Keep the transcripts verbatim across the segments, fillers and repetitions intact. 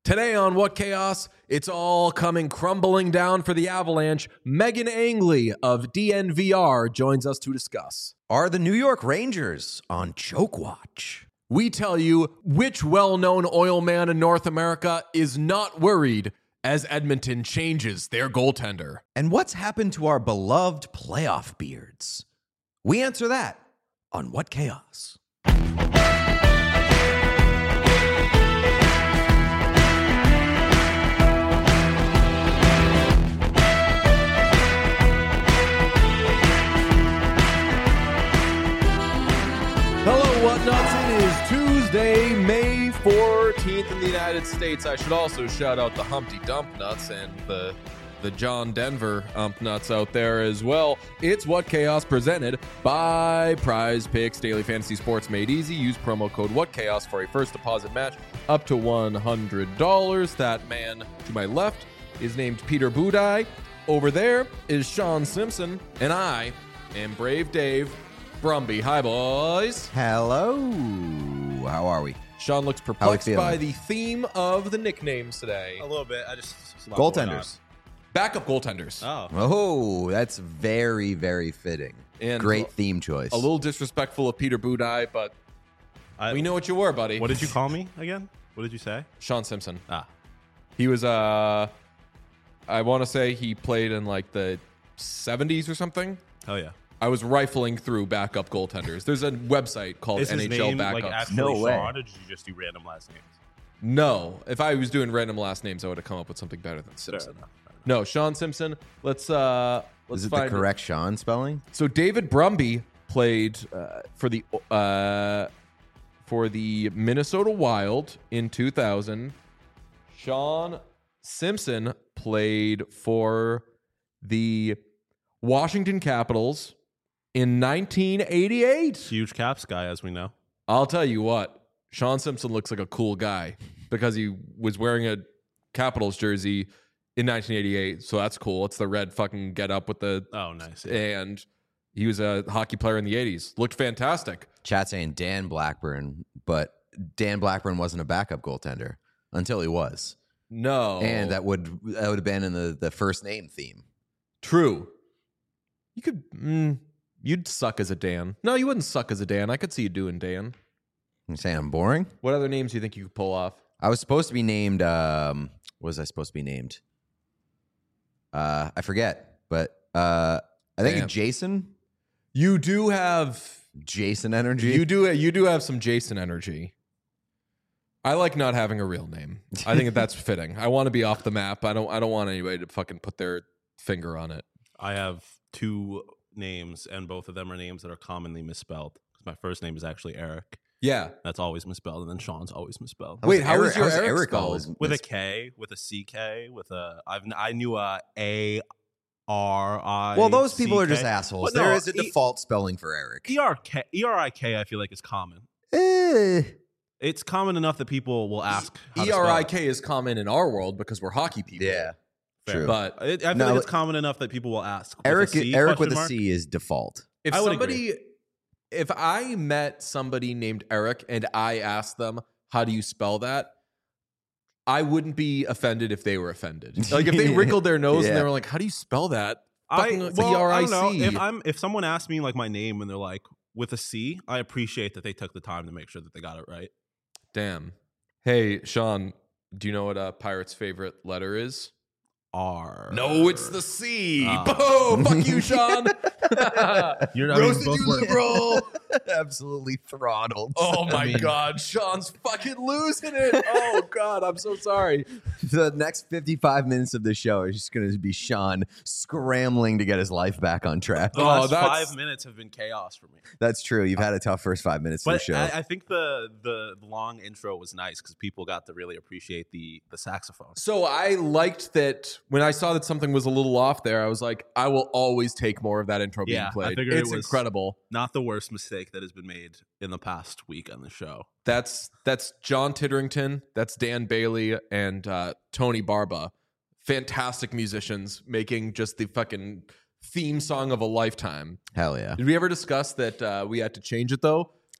Today on What Chaos, it's all coming crumbling down for the Avalanche. Megan Angley of D N V R joins us to discuss. Are the New York Rangers on choke watch? We tell you which well-known oil man in North America is not worried as Edmonton changes their goaltender. And what's happened to our beloved playoff beards? We answer that on What Chaos. Hello, What Nuts? It is Tuesday, May fourteenth in the United States. I should also shout out the Humpty Dump Nuts and the the John Denver Ump Nuts out there as well. It's What Chaos presented by Prize Picks, daily fantasy sports made easy. Use promo code What Chaos for a first deposit match up to one hundred dollars. That man to my left is named Peter Budai. Over there is Sean Simpson, and I am Brave Dave Brumby. Hi, boys. Hello. How are we? Sean looks How we perplexed feeling? by the theme of the nicknames today. A little bit. I just a lot going Goaltenders. Backup goaltenders. on. Oh, Oh, that's very, very fitting. And Great theme choice. A little disrespectful of Peter Budai, but I, we know what you were, buddy. What did you call me again? What did you say? Sean Simpson. Ah, He was, uh, I want to say he played in like the seventies or something. hell yeah. I was rifling through backup goaltenders. There's a website called Is his N H L name Backups. like actually No way. Sean, or did you just do random last names? No, if I was doing random last names, I would have come up with something better than Simpson. enough, fair enough. No, Sean Simpson. Let's uh, let's Is it find the correct Sean spelling? So David Brumby played uh, for the uh, for the Minnesota Wild in two thousand. Sean Simpson played for the Washington Capitals in nineteen eighty-eight. Huge Caps guy, as we know. I'll tell you what, Sean Simpson looks like a cool guy because he was wearing a Capitals jersey in nineteen eighty-eight. So that's cool. It's the red fucking get up with the Oh, nice. and he was a hockey player in the eighties. Looked fantastic. Chat saying Dan Blackburn, but Dan Blackburn wasn't a backup goaltender until he was. No. And that would that would have been in the, the first name theme. True. You could mm, you'd suck as a Dan. No, you wouldn't suck as a Dan. I could see you doing Dan. You saying I'm boring? What other names do you think you could pull off? I was supposed to be named. Um, what was I supposed to be named? Uh, I forget, but uh, I think Damn. Jason. You do have Jason energy. you do you do have some Jason energy. I like not having a real name. I think that's fitting. I want to be off the map. I don't I don't want anybody to fucking put their finger on it. I have two names, and both of them are names that are commonly misspelled. My first name is actually Eric. Yeah. That's always misspelled, and then Sean's always misspelled. Wait, how Eric- is your how's Eric Eric spelled? always With a mis- K, with a C K, with a I've I knew a A R I. Well, those people are C K. just assholes. But no, there is a E- default spelling for Eric. E R K E R I K. I feel like is common. Eh. It's common enough that people will ask. how to E R I spell it. K is common in our world because we're hockey people. Yeah, Fair. true. But It, I feel No, like it's common enough that people will ask. With Eric, a C, Eric with question a mark? C is default. if I would somebody, if I met somebody named Eric and I asked them, how do you spell that? I wouldn't be offended if they were offended. Like if they wrinkled their nose and Yeah. they were like, how do you spell that? I, Fucking well, E R I I don't know. C. If I'm if someone asks me like my name and they're like with a C, I appreciate that they took the time to make sure that they got it right. Damn. Hey, Sean, do you know what a pirate's favorite letter is? R. No, it's the C. Ah. Boom! Fuck you, Sean. You're I mean, Roasted both you, work. liberal. Absolutely throttled. Oh I my mean- God, Sean's fucking losing it. Oh God, I'm so sorry. The next fifty-five minutes of the show is just going to be Sean scrambling to get his life back on track. The Oh, last that's- five minutes have been chaos for me. That's true. You've had a tough first five minutes of the But show. I, I think the the long intro was nice because people got to really appreciate the the saxophone. So I liked that when I saw that something was a little off there. I was like, I will always take more of that intro being Yeah, I played. figured it It's was- incredible. Not the worst mistake that has been made in the past week on the show. That's that's John Titterington, that's Dan Bailey, and uh, Tony Barba. Fantastic musicians making just the fucking theme song of a lifetime. Hell yeah. Did we ever discuss that uh, we had to change it though?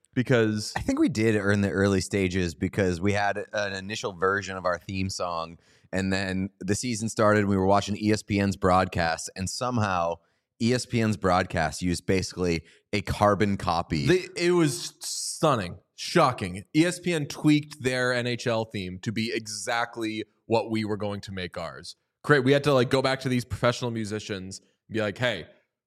because I think we did in the early stages because we had an initial version of our theme song, and then the season started. And we were watching E S P N's broadcast, and somehow E S P N's broadcast used basically a carbon copy. they, it was stunning, shocking. E S P N tweaked their N H L theme to be exactly what we were going to make ours. Great. We had to like go back to these professional musicians and be like, hey,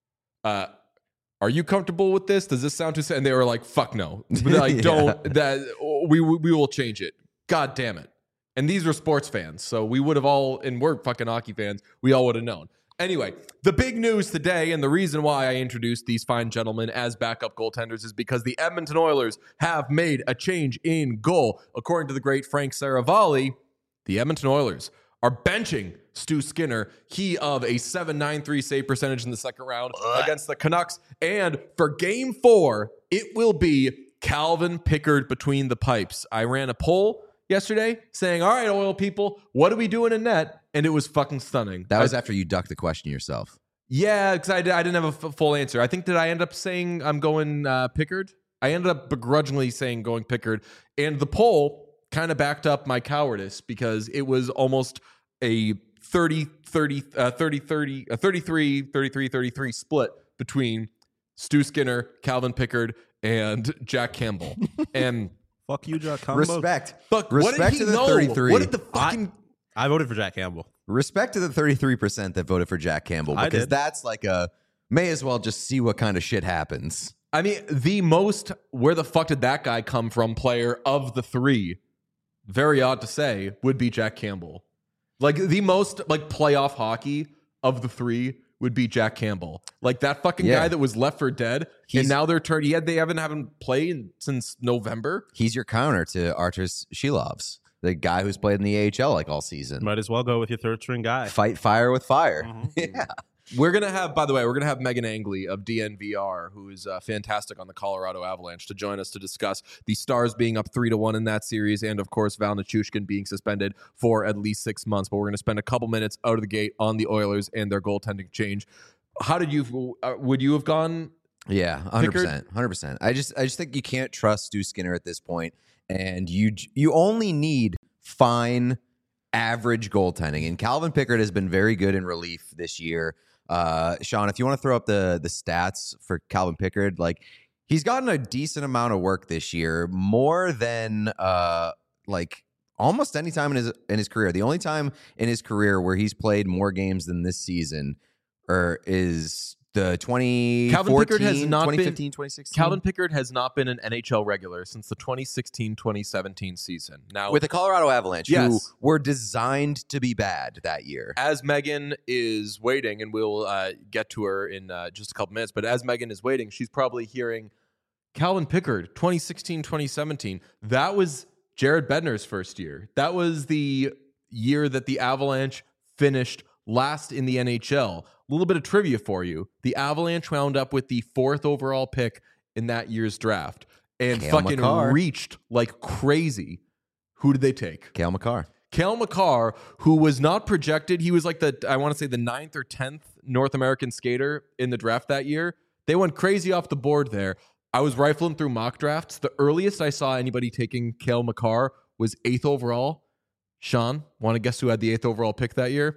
uh, are you comfortable with this? Does this sound too? And they were like, "Fuck no!" They're like, Yeah. don't that we we will change it. God damn it! And these were sports fans, so we would have all, and we're fucking hockey fans. We all would have known. Anyway, the big news today, and the reason why I introduced these fine gentlemen as backup goaltenders is because the Edmonton Oilers have made a change in goal. According to the great Frank Saravalli, the Edmonton Oilers are benching Stu Skinner, he of a seven ninety-three save percentage in the second round against the Canucks. And for game four, it will be Calvin Pickard between the pipes. I ran a poll yesterday saying, all right, Oil people, what are we doing in net? And it was fucking stunning. that was I, after you ducked the question yourself. yeah, because I, I didn't have a f- full answer. I think, did I end up saying I'm going uh, Pickard? I ended up begrudgingly saying going Pickard. And the poll kind of backed up my cowardice because it was almost a thirty, thirty, uh, thirty, thirty, uh, thirty-three, thirty-three, thirty-three split between Stu Skinner, Calvin Pickard, and Jack Campbell. And Fuck you, Jack Campbell. Respect. fuck, Respect what did he to the know? thirty-three. What did the fucking... I voted for Jack Campbell. Respect to the thirty-three percent that voted for Jack Campbell I because did. that's like a may as well just see what kind of shit happens. I mean, the most where the fuck did that guy come from player of the three, very odd to say, would be Jack Campbell. Like the most like playoff hockey of the three would be Jack Campbell. Like that fucking Yeah. guy that was left for dead. He's- and now they're turned. He had they haven't haven't played since November. He's your counter to Artus Shilovs, the guy who's played in the A H L like all season. Might as well go with your third string guy. Fight fire with fire. Mhm. Yeah. We're gonna have, by the way, we're gonna have Megan Angley of D N V R, who is uh, fantastic on the Colorado Avalanche, to join us to discuss the Stars being up three to one in that series, and of course Val Nichushkin being suspended for at least six months. But we're gonna spend a couple minutes out of the gate on the Oilers and their goaltending change. How did you? Uh, would you have gone? Yeah, hundred percent, hundred percent. I just, I just think you can't trust Stu Skinner at this point, and you, you only need fine, average goaltending. And Calvin Pickard has been very good in relief this year. Uh, Sean, if you want to throw up the the stats for Calvin Pickard, like he's gotten a decent amount of work this year, more than uh, like almost any time in his in his career. The only time in his career where he's played more games than this season, or is the twenty Calvin Pickard has not twenty been- fifteen, twenty sixteen Calvin Pickard has not been an N H L regular since the twenty sixteen twenty seventeen season. Now, with the Colorado Avalanche, who Yes. were designed to be bad that year. as Megan is waiting, and we'll uh, get to her in uh, just a couple minutes, but as Megan is waiting, she's probably hearing Calvin Pickard, twenty sixteen twenty seventeen. That was Jared Bednar's first year. That was the year that the Avalanche finished last in the N H L. A little bit of trivia for you. The Avalanche wound up with the fourth overall pick in that year's draft and Cale fucking Makar. reached like crazy. Who did they take? Cale Makar. Cale Makar, who was not projected, he was like the, I want to say the ninth or tenth North American skater in the draft that year. They went crazy off the board there. I was rifling through mock drafts. The earliest I saw anybody taking Cale Makar was eighth overall. Sean, want to guess who had the eighth overall pick that year?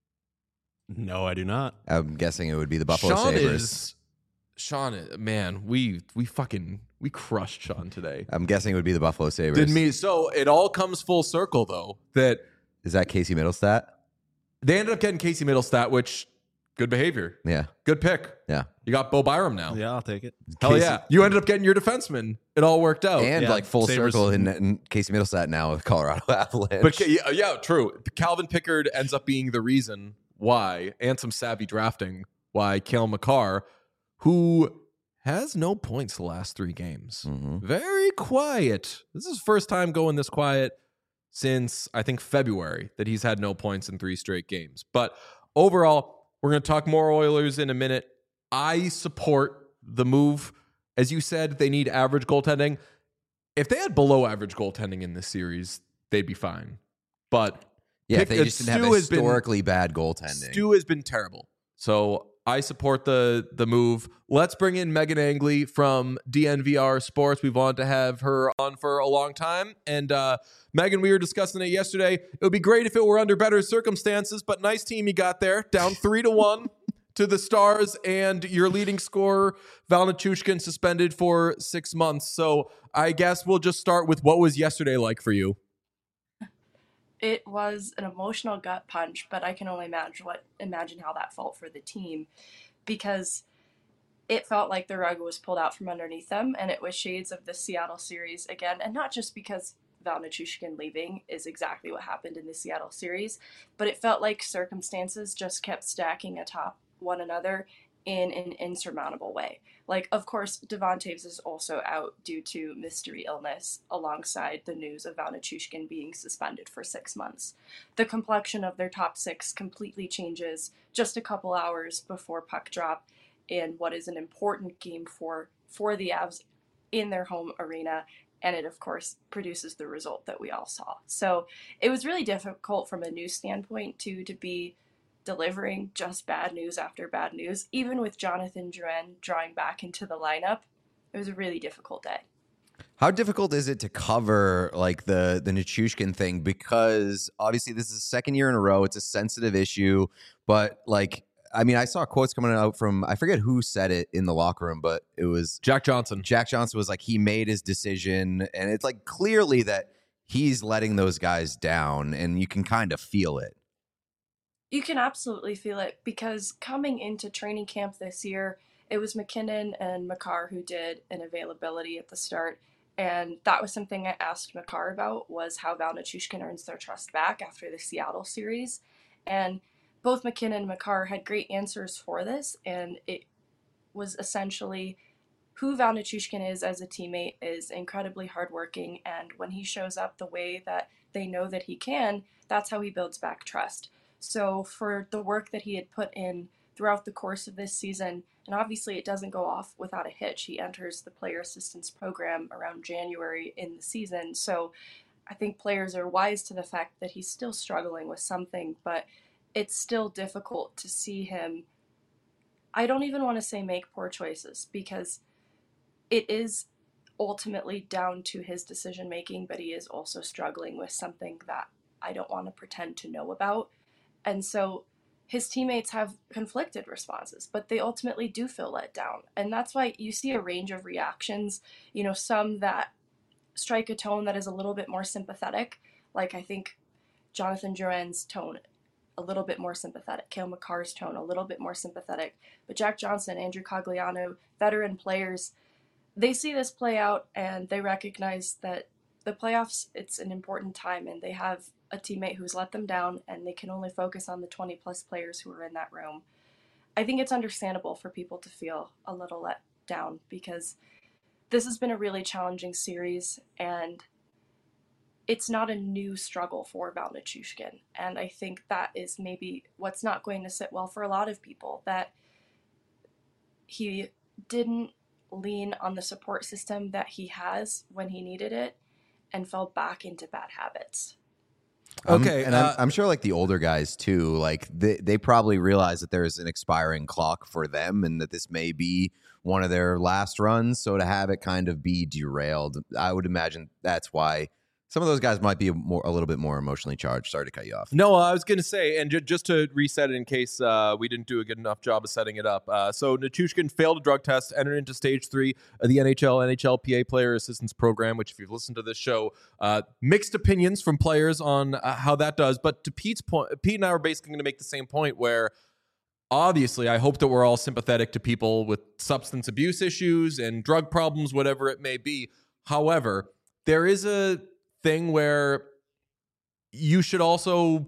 No, I do not. I'm guessing it would be the Buffalo Sean Sabres. is, Sean, is- man, we we fucking, we crushed Sean today. I'm guessing it would be the Buffalo Sabres. Didn't me? So it all comes full circle though, that Is that Casey Middlestat? they ended up getting Casey Middlestat, which good behavior. Yeah. Good pick. Yeah. You got Bo Byram now. Yeah, I'll take it. Hell Casey- yeah. You ended up getting your defenseman. It all worked out. And yeah, like full Sabres- circle in, in Casey Middlestat now with Colorado Avalanche. but yeah, yeah, true. Calvin Pickard ends up being the reason why, and some savvy drafting, why Cale Makar, who has no points the last three games. Mhm. Very quiet. This is his first time going this quiet since, I think, February, that he's had no points in three straight games. But overall, we're going to talk more Oilers in a minute. I support the move. As you said, they need average goaltending. If they had below average goaltending in this series, they'd be fine. But yeah, Pick- they just didn't have Stu has been- historically bad goaltending. Stu has been terrible. So I support the the move. Let's bring in Megan Angley from D N V R Sports. We've wanted to have her on for a long time. And uh, Megan, we were discussing it yesterday. It would be great if it were under better circumstances, but nice team you got there. Down three to one to the Stars, and your leading scorer, Val Nichushkin, suspended for six months. So I guess we'll just start with what was yesterday like for you? It was an emotional gut punch, but I can only imagine what imagine how that felt for the team, because it felt like the rug was pulled out from underneath them, and it was shades of the Seattle series again. And not just because Val Nichushkin leaving is exactly what happened in the Seattle series, but it felt like circumstances just kept stacking atop one another in an insurmountable way. Like, of course, Devon Toews is also out due to mystery illness, alongside the news of Val Nichushkin being suspended for six months. The complexion of their top six completely changes just a couple hours before puck drop in what is an important game for, for the Avs in their home arena. And it, of course, produces the result that we all saw. So it was really difficult from a news standpoint, too, to be delivering just bad news after bad news. Even with Jonathan Drouin drawing back into the lineup, it was a really difficult day. How difficult is it to cover like the the Nichushkin thing? Because obviously this is the second year in a row. It's a sensitive issue, but like, I mean, I saw quotes coming out from, I forget who said it in the locker room, but it was Jack Johnson. Jack Johnson was like, he made his decision, and it's like clearly that he's letting those guys down, and you can kind of feel it. You can absolutely feel it, because coming into training camp this year, it was McKinnon and Makar who did an availability at the start. And that was something I asked Makar about, was how Val Nichushkin earns their trust back after the Seattle series. And both McKinnon and Makar had great answers for this. And it was essentially who Val Nichushkin is as a teammate is incredibly hardworking. And when he shows up the way that they know that he can, that's how he builds back trust. So for the work that he had put in throughout the course of this season, and obviously it doesn't go off without a hitch. He enters the player assistance program around January in the season. So I think players are wise to the fact that he's still struggling with something, but it's still difficult to see him. I don't even want to say make poor choices, because it is ultimately down to his decision making, but he is also struggling with something that I don't want to pretend to know about. And so his teammates have conflicted responses, but they ultimately do feel let down. And that's why you see a range of reactions, you know, some that strike a tone that is a little bit more sympathetic. Like, I think Jonathan Drouin's tone, a little bit more sympathetic. Cale Makar's tone, a little bit more sympathetic. But Jack Johnson, Andrew Cogliano, veteran players, they see this play out and they recognize that the playoffs, it's an important time, and they have a teammate who's let them down, and they can only focus on the twenty plus players who are in that room. I think it's understandable for people to feel a little let down, because this has been a really challenging series, and it's not a new struggle for Val Nichushkin. And I think that is maybe what's not going to sit well for a lot of people, that he didn't lean on the support system that he has when he needed it, and fell back into bad habits. Okay, um, and uh, I'm, I'm sure like the older guys too, like they, they probably realize that there's an expiring clock for them, and that this may be one of their last runs. So to have it kind of be derailed, I would imagine that's why some of those guys might be a, more, a little bit more emotionally charged. Sorry to cut you off. No, I was going to say, and ju- just to reset it in case uh, we didn't do a good enough job of setting it up. Uh, so Nichushkin failed a drug test, entered into stage three of the N H L N H L P A Player Assistance Program, which, if you've listened to this show, uh, mixed opinions from players on uh, how that does. But to Pete's point, Pete and I were basically going to make the same point, where obviously I hope that we're all sympathetic to people with substance abuse issues and drug problems, whatever it may be. However, there is a thing where you should also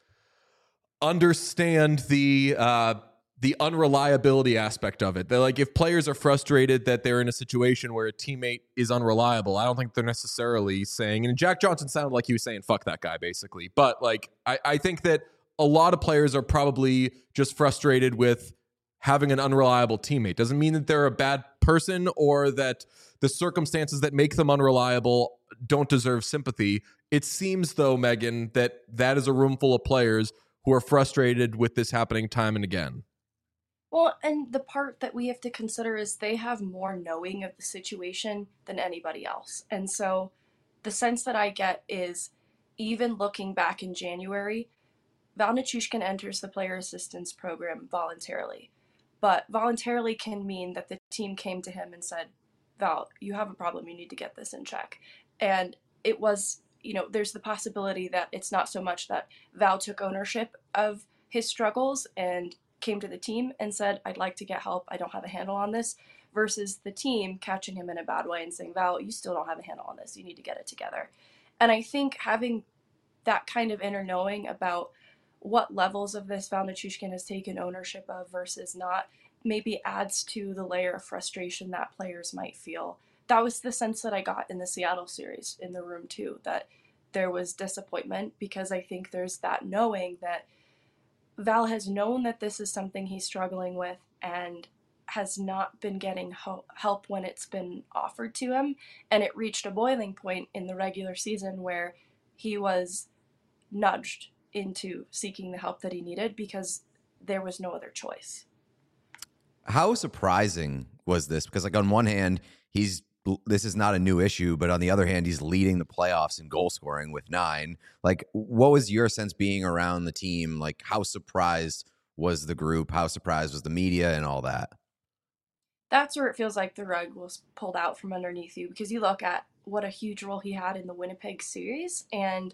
understand the uh, the unreliability aspect of it. That, like, if players are frustrated that they're in a situation where a teammate is unreliable, I don't think they're necessarily saying, and Jack Johnson sounded like he was saying, fuck that guy, basically. But like, I, I think that a lot of players are probably just frustrated with having an unreliable teammate. Doesn't mean that they're a bad person or that the circumstances that make them unreliable don't deserve sympathy. It seems, though, Megan, that that is a room full of players who are frustrated with this happening time and again. Well, and the part that we have to consider is they have more knowing of the situation than anybody else. And so the sense that I get is even looking back in January, Val Nichushkin enters the player assistance program voluntarily. But voluntarily can mean that the team came to him and said, Val, you have a problem. You need to get this in check. And it was, you know, there's the possibility that it's not so much that Val took ownership of his struggles and came to the team and said, I'd like to get help. I don't have a handle on this, versus the team catching him in a bad way and saying, Val, you still don't have a handle on this. You need to get it together. And I think having that kind of inner knowing about what levels of this Val Nichushkin has taken ownership of versus not maybe adds to the layer of frustration that players might feel. That was the sense that I got in the Seattle series in the room too, that there was disappointment because I think there's that knowing that Val has known that this is something he's struggling with and has not been getting ho- help when it's been offered to him. And it reached a boiling point in the regular season where he was nudged into seeking the help that he needed because there was no other choice. How surprising was this? Because, like, on one hand, he's this is not a new issue, but on the other hand, he's leading the playoffs in goal scoring with nine. Like, what was your sense being around the team? Like, how surprised was the group? How surprised was the media and all that? That's where it feels like the rug was pulled out from underneath you, because you look at what a huge role he had in the Winnipeg series, and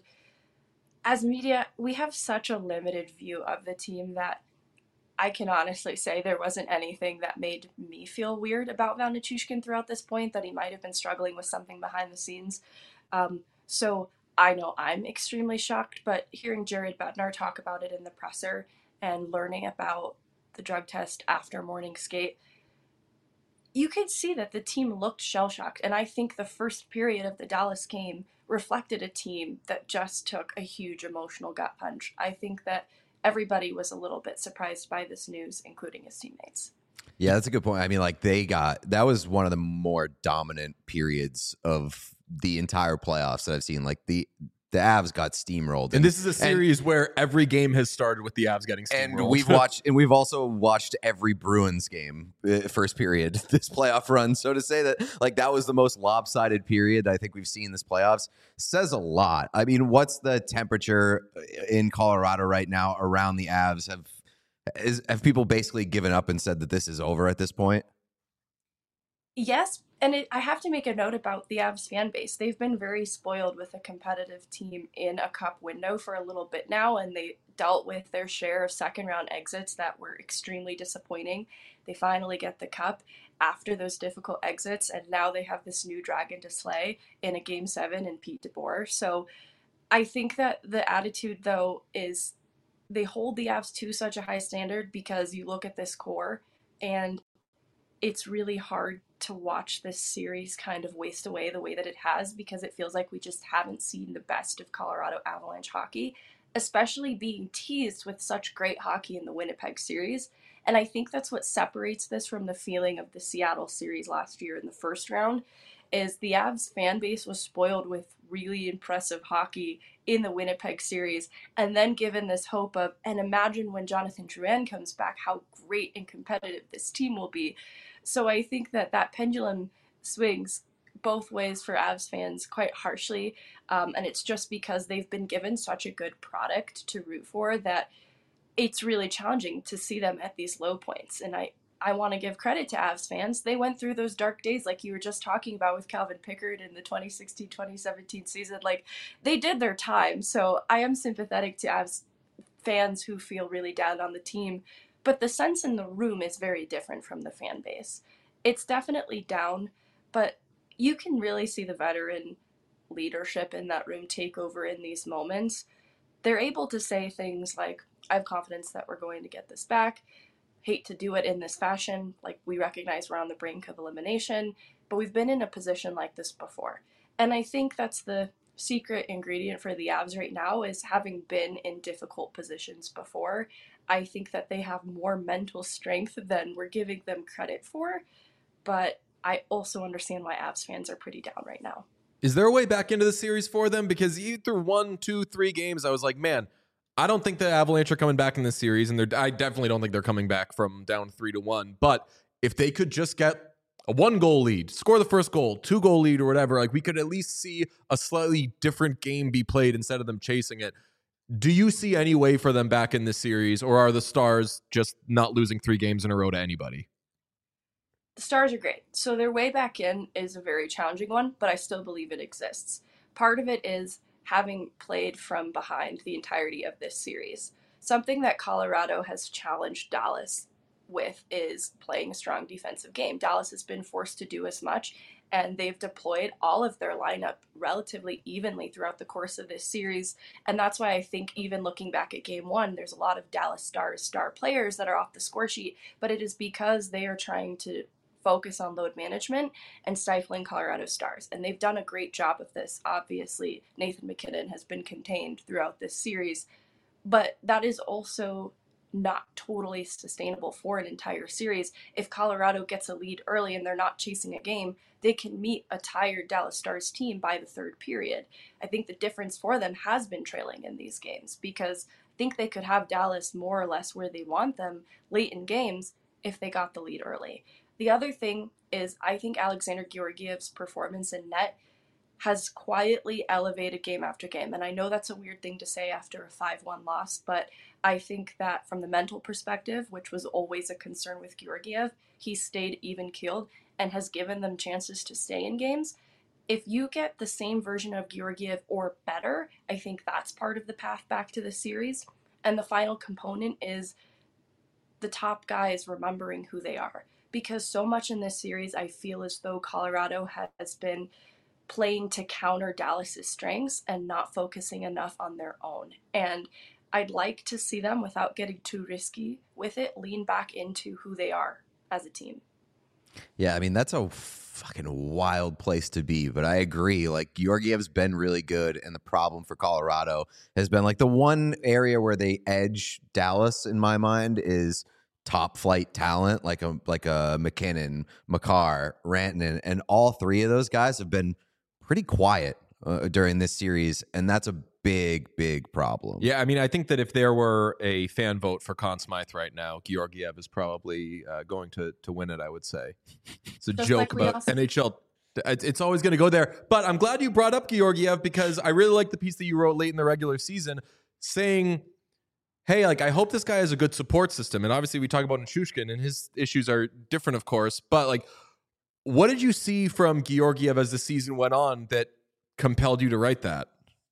as media, we have such a limited view of the team that I can honestly say there wasn't anything that made me feel weird about Val Nichushkin throughout this point, that he might have been struggling with something behind the scenes. Um, so I know I'm extremely shocked, but hearing Jared Bednar talk about it in the presser and learning about the drug test after morning skate, you could see that the team looked shell-shocked. And I think the first period of the Dallas game reflected a team that just took a huge emotional gut punch. I think that everybody was a little bit surprised by this news, including his teammates. Yeah, that's a good point. I mean, like, they got, that was one of the more dominant periods of the entire playoffs that I've seen. Like, the the Avs got steamrolled. And, and this is a series and, where every game has started with the Avs getting steamrolled. And we've watched, and we've also watched every Bruins game, uh, first period, this playoff run. So to say that, like, that was the most lopsided period I think we've seen this playoffs says a lot. I mean, what's the temperature in Colorado right now around the Avs? Have is, have people basically given up and said that this is over at this point? Yes, and it, I have to make a note about the Avs fan base. They've been very spoiled with a competitive team in a cup window for a little bit now, and they dealt with their share of second-round exits that were extremely disappointing. They finally get the cup after those difficult exits, and now they have this new dragon to slay in a Game seven in Pete DeBoer. So I think that the attitude, though, is they hold the Avs to such a high standard because you look at this core, and it's really hard to watch this series kind of waste away the way that it has, because it feels like we just haven't seen the best of Colorado Avalanche hockey, especially being teased with such great hockey in the Winnipeg series. And I think that's what separates this from the feeling of the Seattle series last year in the first round, is the Avs fan base was spoiled with really impressive hockey in the Winnipeg series, and then given this hope of, and imagine when Jonathan Drouin comes back, how great and competitive this team will be. So I think that that pendulum swings both ways for Avs fans quite harshly, um, and it's just because they've been given such a good product to root for that it's really challenging to see them at these low points. And I, I want to give credit to Avs fans. They went through those dark days like you were just talking about with Calvin Pickard in the twenty sixteen twenty seventeen season. Like, they did their time. So I am sympathetic to Avs fans who feel really down on the team. But the sense in the room is very different from the fan base. It's definitely down, but you can really see the veteran leadership in that room take over in these moments. They're able to say things like, I have confidence that we're going to get this back. Hate to do it in this fashion. Like, we recognize we're on the brink of elimination, but we've been in a position like this before. And I think that's the secret ingredient for the Avs right now, is having been in difficult positions before. I think that they have more mental strength than we're giving them credit for, but I also understand why Avs fans are pretty down right now. Is there a way back into the series for them? Because you through one, two, three games, I was like, man, I don't think the Avalanche are coming back in this series, and they're, I definitely don't think they're coming back from down three to one. But if they could just get a one goal lead, score the first goal, two goal lead, or whatever, like we could at least see a slightly different game be played instead of them chasing it. Do you see any way for them back in this series, or are the Stars just not losing three games in a row to anybody? The Stars are great. So their way back in is a very challenging one, but I still believe it exists. Part of it is having played from behind the entirety of this series. Something that Colorado has challenged Dallas with is playing a strong defensive game. Dallas has been forced to do as much, and they've deployed all of their lineup relatively evenly throughout the course of this series. And that's why I think even looking back at game one, there's a lot of Dallas Stars star players that are off the score sheet, but it is because they are trying to focus on load management and stifling Colorado Stars. And they've done a great job of this. Obviously, Nathan MacKinnon has been contained throughout this series, but that is also not totally sustainable for an entire series. If Colorado gets a lead early and they're not chasing a game, they can meet a tired Dallas Stars team by the third period. I think the difference for them has been trailing in these games, because I think they could have Dallas more or less where they want them late in games if they got the lead early. The other thing is, I think Alexander Georgiev's performance in net has quietly elevated game after game. And I know that's a weird thing to say after a five one loss, but I think that from the mental perspective, which was always a concern with Georgiev, he stayed even-keeled and has given them chances to stay in games. If you get the same version of Georgiev or better, I think that's part of the path back to the series. And the final component is the top guys remembering who they are. Because so much in this series, I feel as though Colorado has been playing to counter Dallas's strengths and not focusing enough on their own. And I'd like to see them, without getting too risky with it, lean back into who they are as a team. Yeah, I mean, that's a fucking wild place to be, but I agree. Like, Georgiev's been really good, and the problem for Colorado has been, like, the one area where they edge Dallas, in my mind, is top flight talent, like a like a MacKinnon, Makar, Rantanen, and all three of those guys have been pretty quiet uh, during this series, and that's a big, big problem. Yeah, I mean, I think that if there were a fan vote for Conn Smythe right now, Georgiev is probably uh, going to to win it, I would say. It's a Just joke like we about also- N H L. It's it's always going to go there. But I'm glad you brought up Georgiev, because I really like the piece that you wrote late in the regular season saying, hey, like, I hope this guy has a good support system. And obviously we talk about Nichushkin, and his issues are different, of course. But, like, what did you see from Georgiev as the season went on that compelled you to write that?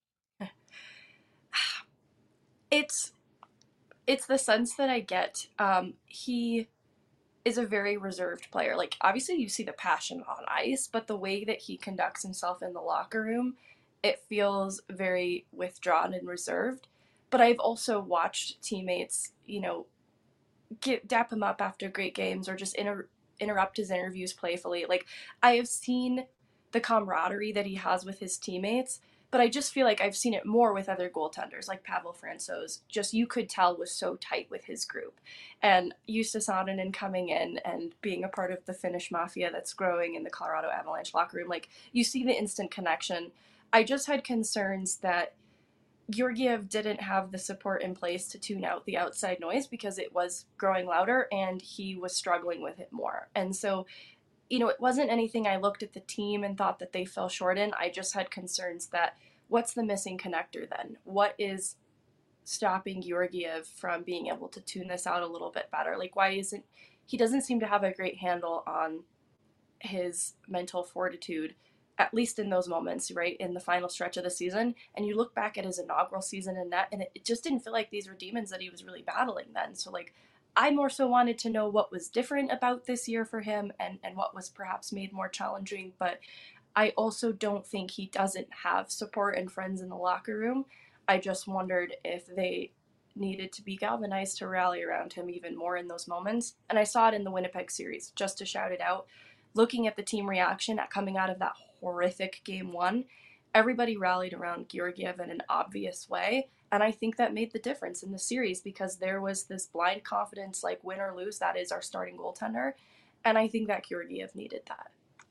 It's it's the sense that I get. Um, he is a very reserved player. Like, obviously you see the passion on ice, but the way that he conducts himself in the locker room, it feels very withdrawn and reserved. But I've also watched teammates, you know, get, dap him up after great games, or just inter- interrupt his interviews playfully. Like, I have seen the camaraderie that he has with his teammates, but I just feel like I've seen it more with other goaltenders, like Pavel Francouz. Just, you could tell, was so tight with his group. And Justus Annunen coming in and being a part of the Finnish mafia that's growing in the Colorado Avalanche locker room, like, you see the instant connection. I just had concerns that Georgiev didn't have the support in place to tune out the outside noise, because it was growing louder and he was struggling with it more. And so, you know, it wasn't anything I looked at the team and thought that they fell short in. I just had concerns that, what's the missing connector then? What is stopping Georgiev from being able to tune this out a little bit better? Like, why isn't, he doesn't seem to have a great handle on his mental fortitude, at least in those moments, right, in the final stretch of the season. And you look back at his inaugural season in that, and it, it just didn't feel like these were demons that he was really battling then. So, like, I more so wanted to know what was different about this year for him, and, and what was perhaps made more challenging. But I also don't think he doesn't have support and friends in the locker room. I just wondered if they needed to be galvanized to rally around him even more in those moments. And I saw it in the Winnipeg series, just to shout it out. Looking at the team reaction at coming out of that horrific game one, everybody rallied around Georgiev in an obvious way. And I think that made the difference in the series, because there was this blind confidence, like, win or lose, that is our starting goaltender. And I think that Georgiev needed that.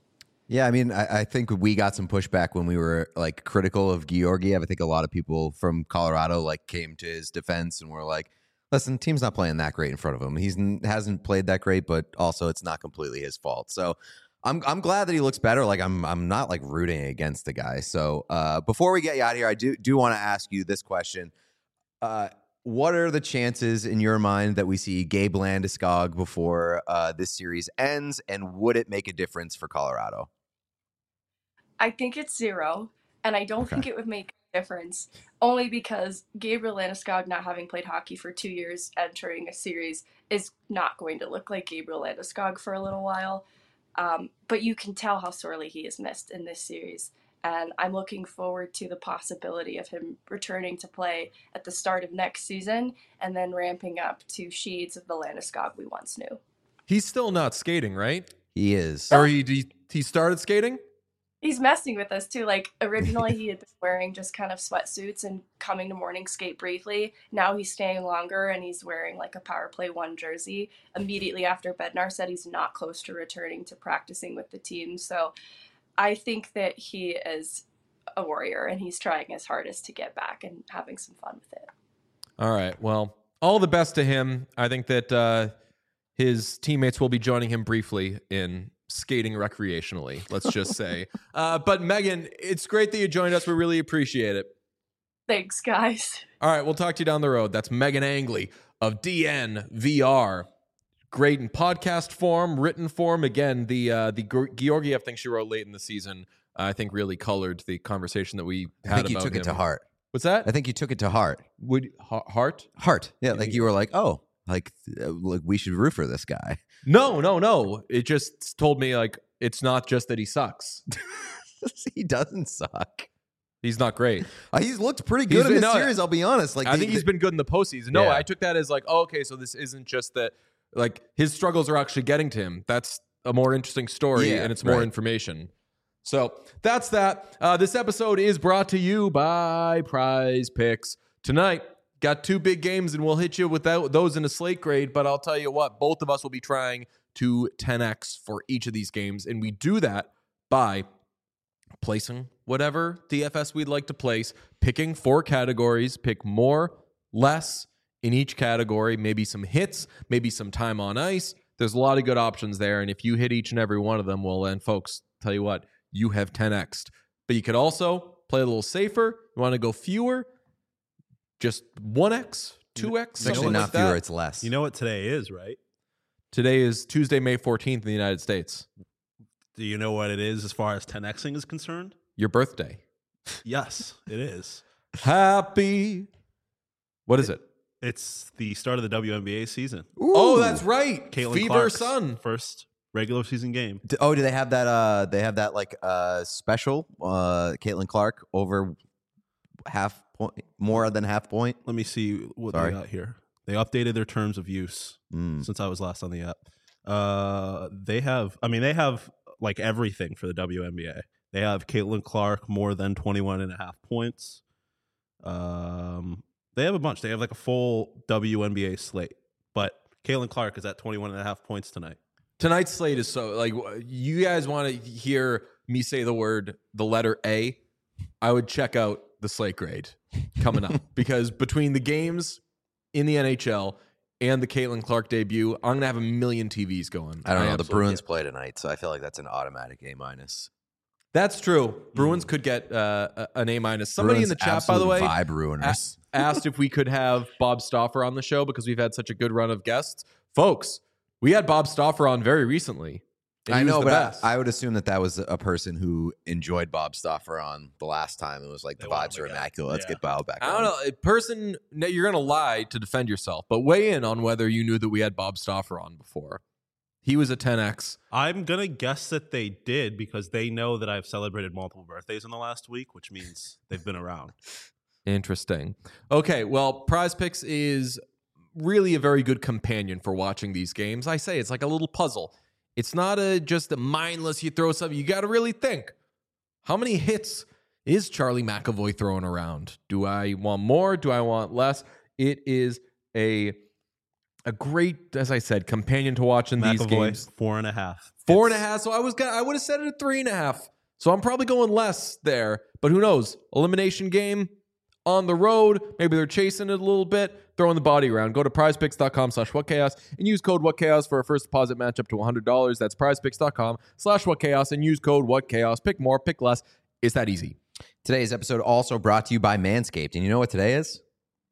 Yeah, I mean, I, I think we got some pushback when we were like critical of Georgiev. I think a lot of people from Colorado like came to his defense and were like, listen, team's not playing that great in front of him. He's hasn't played that great, but also it's not completely his fault. So I'm I'm glad that he looks better. Like I'm I'm not like rooting against the guy. So uh, before we get you out of here, I do do want to ask you this question. Uh, what are the chances in your mind that we see Gabe Landeskog before uh, this series ends? And would it make a difference for Colorado? I think it's zero, and I don't Okay. think it would make a difference, only because Gabriel Landeskog, not having played hockey for two years, entering a series is not going to look like Gabriel Landeskog for a little while. Um, but you can tell how sorely he is missed in this series, and I'm looking forward to the possibility of him returning to play at the start of next season and then ramping up to shades of the Landeskog we once knew. He's still not skating, right? He is. Or he he, he started skating? He's messing with us too. Like originally he had been wearing just kind of sweatsuits and coming to morning skate briefly. Now he's staying longer and he's wearing like a power play one jersey immediately after Bednar said he's not close to returning to practicing with the team. So I think that he is a warrior and he's trying his hardest to get back and having some fun with it. All right. Well, all the best to him. I think that uh, his teammates will be joining him briefly in skating recreationally, let's just say. Uh, but Megan, it's great that you joined us. We really appreciate it. Thanks, guys. All right, we'll talk to you down the road. That's Megan Angley of D N V R. Great in podcast form, written form. Again, the uh, the Georgiev thing she wrote late in the season, uh, I think really colored the conversation that we had I think you about took him. it to heart. What's that? I think you took it to heart. Would ha- heart? Heart. Yeah, like you were like, oh, like, uh, like we should root for this guy. No, no, no. It just told me like it's not just that he sucks. He doesn't suck. He's not great. Uh, he's looked pretty good He's- in this no, series. I'll be honest. Like I the- think he's the- been good in the postseason. No, Yeah. I took that as like, oh, okay, so this isn't just that. Like his struggles are actually getting to him. That's a more interesting story, Yeah, and it's more right. information. So that's that. Uh, this episode is brought to you by Prize Picks. Tonight, got two big games, and we'll hit you with that, those in a slate grade. But I'll tell you what, both of us will be trying to ten X for each of these games, and we do that by placing whatever D F S we'd like to place, picking four categories, pick more, less in each category, maybe some hits, maybe some time on ice. There's a lot of good options there, and if you hit each and every one of them, well then, folks, tell you what, you have ten X'd. But you could also play a little safer. You want to go fewer, just one X, two X, it's actually something not like fewer, that. it's less. You know what today is, right? Today is Tuesday, May fourteenth in the United States. Do you know what it is as far as ten Xing is concerned? Your birthday. Yes, it is. Happy. What is it? It's the start of the W N B A season. Oh, that's right. Caitlin Fever Clark's Sun. first regular season game. D- Oh, do they have that? Uh, they have that like uh special. Uh, Caitlin Clark over half point, more than half point. Let me see what Sorry. they got here. They updated their terms of use Mm. since I was last on the app. Uh, they have, I mean, they have like everything for the W N B A. They have Caitlin Clark more than twenty-one and a half points. Um, they have a bunch. They have like a full W N B A slate. But Caitlin Clark is at twenty-one and a half points tonight. Tonight's slate is so like you guys want to hear me say the word the letter A, I would check out the slate grade coming up because between the games in the N H L and the Caitlin Clark debut, I'm gonna have a million T Vs going. I don't know. The absolutely Bruins get it. play tonight, so I feel like that's an automatic A minus. That's true. Bruins could get uh, a- an A minus. Somebody in the chat, by the way, vibe ruiners. a- asked if we could have Bob Stauffer on the show because we've had such a good run of guests. Folks, we had Bob Stauffer on very recently. and I he was know, the but best. I, I would assume that that was a person who enjoyed Bob Stauffer on the last time. It was like They the want vibes him are again. immaculate. Let's Yeah. get Bob back. I don't on. know. A person, no, you're going to lie to defend yourself, but weigh in on whether you knew that we had Bob Stauffer on before. He was a ten X. I'm going to guess that they did because they know that I've celebrated multiple birthdays in the last week, which means they've been around. Interesting. Okay, well, Prize Picks is really a very good companion for watching these games. I say it's like a little puzzle. It's not a just a mindless, you throw something. You got to really think. How many hits is Charlie McAvoy throwing around? Do I want more? Do I want less? It is a a great, as I said, companion to watching these McAvoy, games. four and a half. Four and a It's- half. So I was gonna, I would have said it at three and a half. So I'm probably going less there. But who knows? Elimination game on the road. Maybe they're chasing it a little bit, throwing the body around. Go to prizepicks.com slash whatchaos and use code whatchaos for a first deposit match up to one hundred dollars. That's prizepicks.com slash whatchaos and use code whatchaos. Pick more, pick less. It's that easy. Today's episode also brought to you by Manscaped. And you know what today is?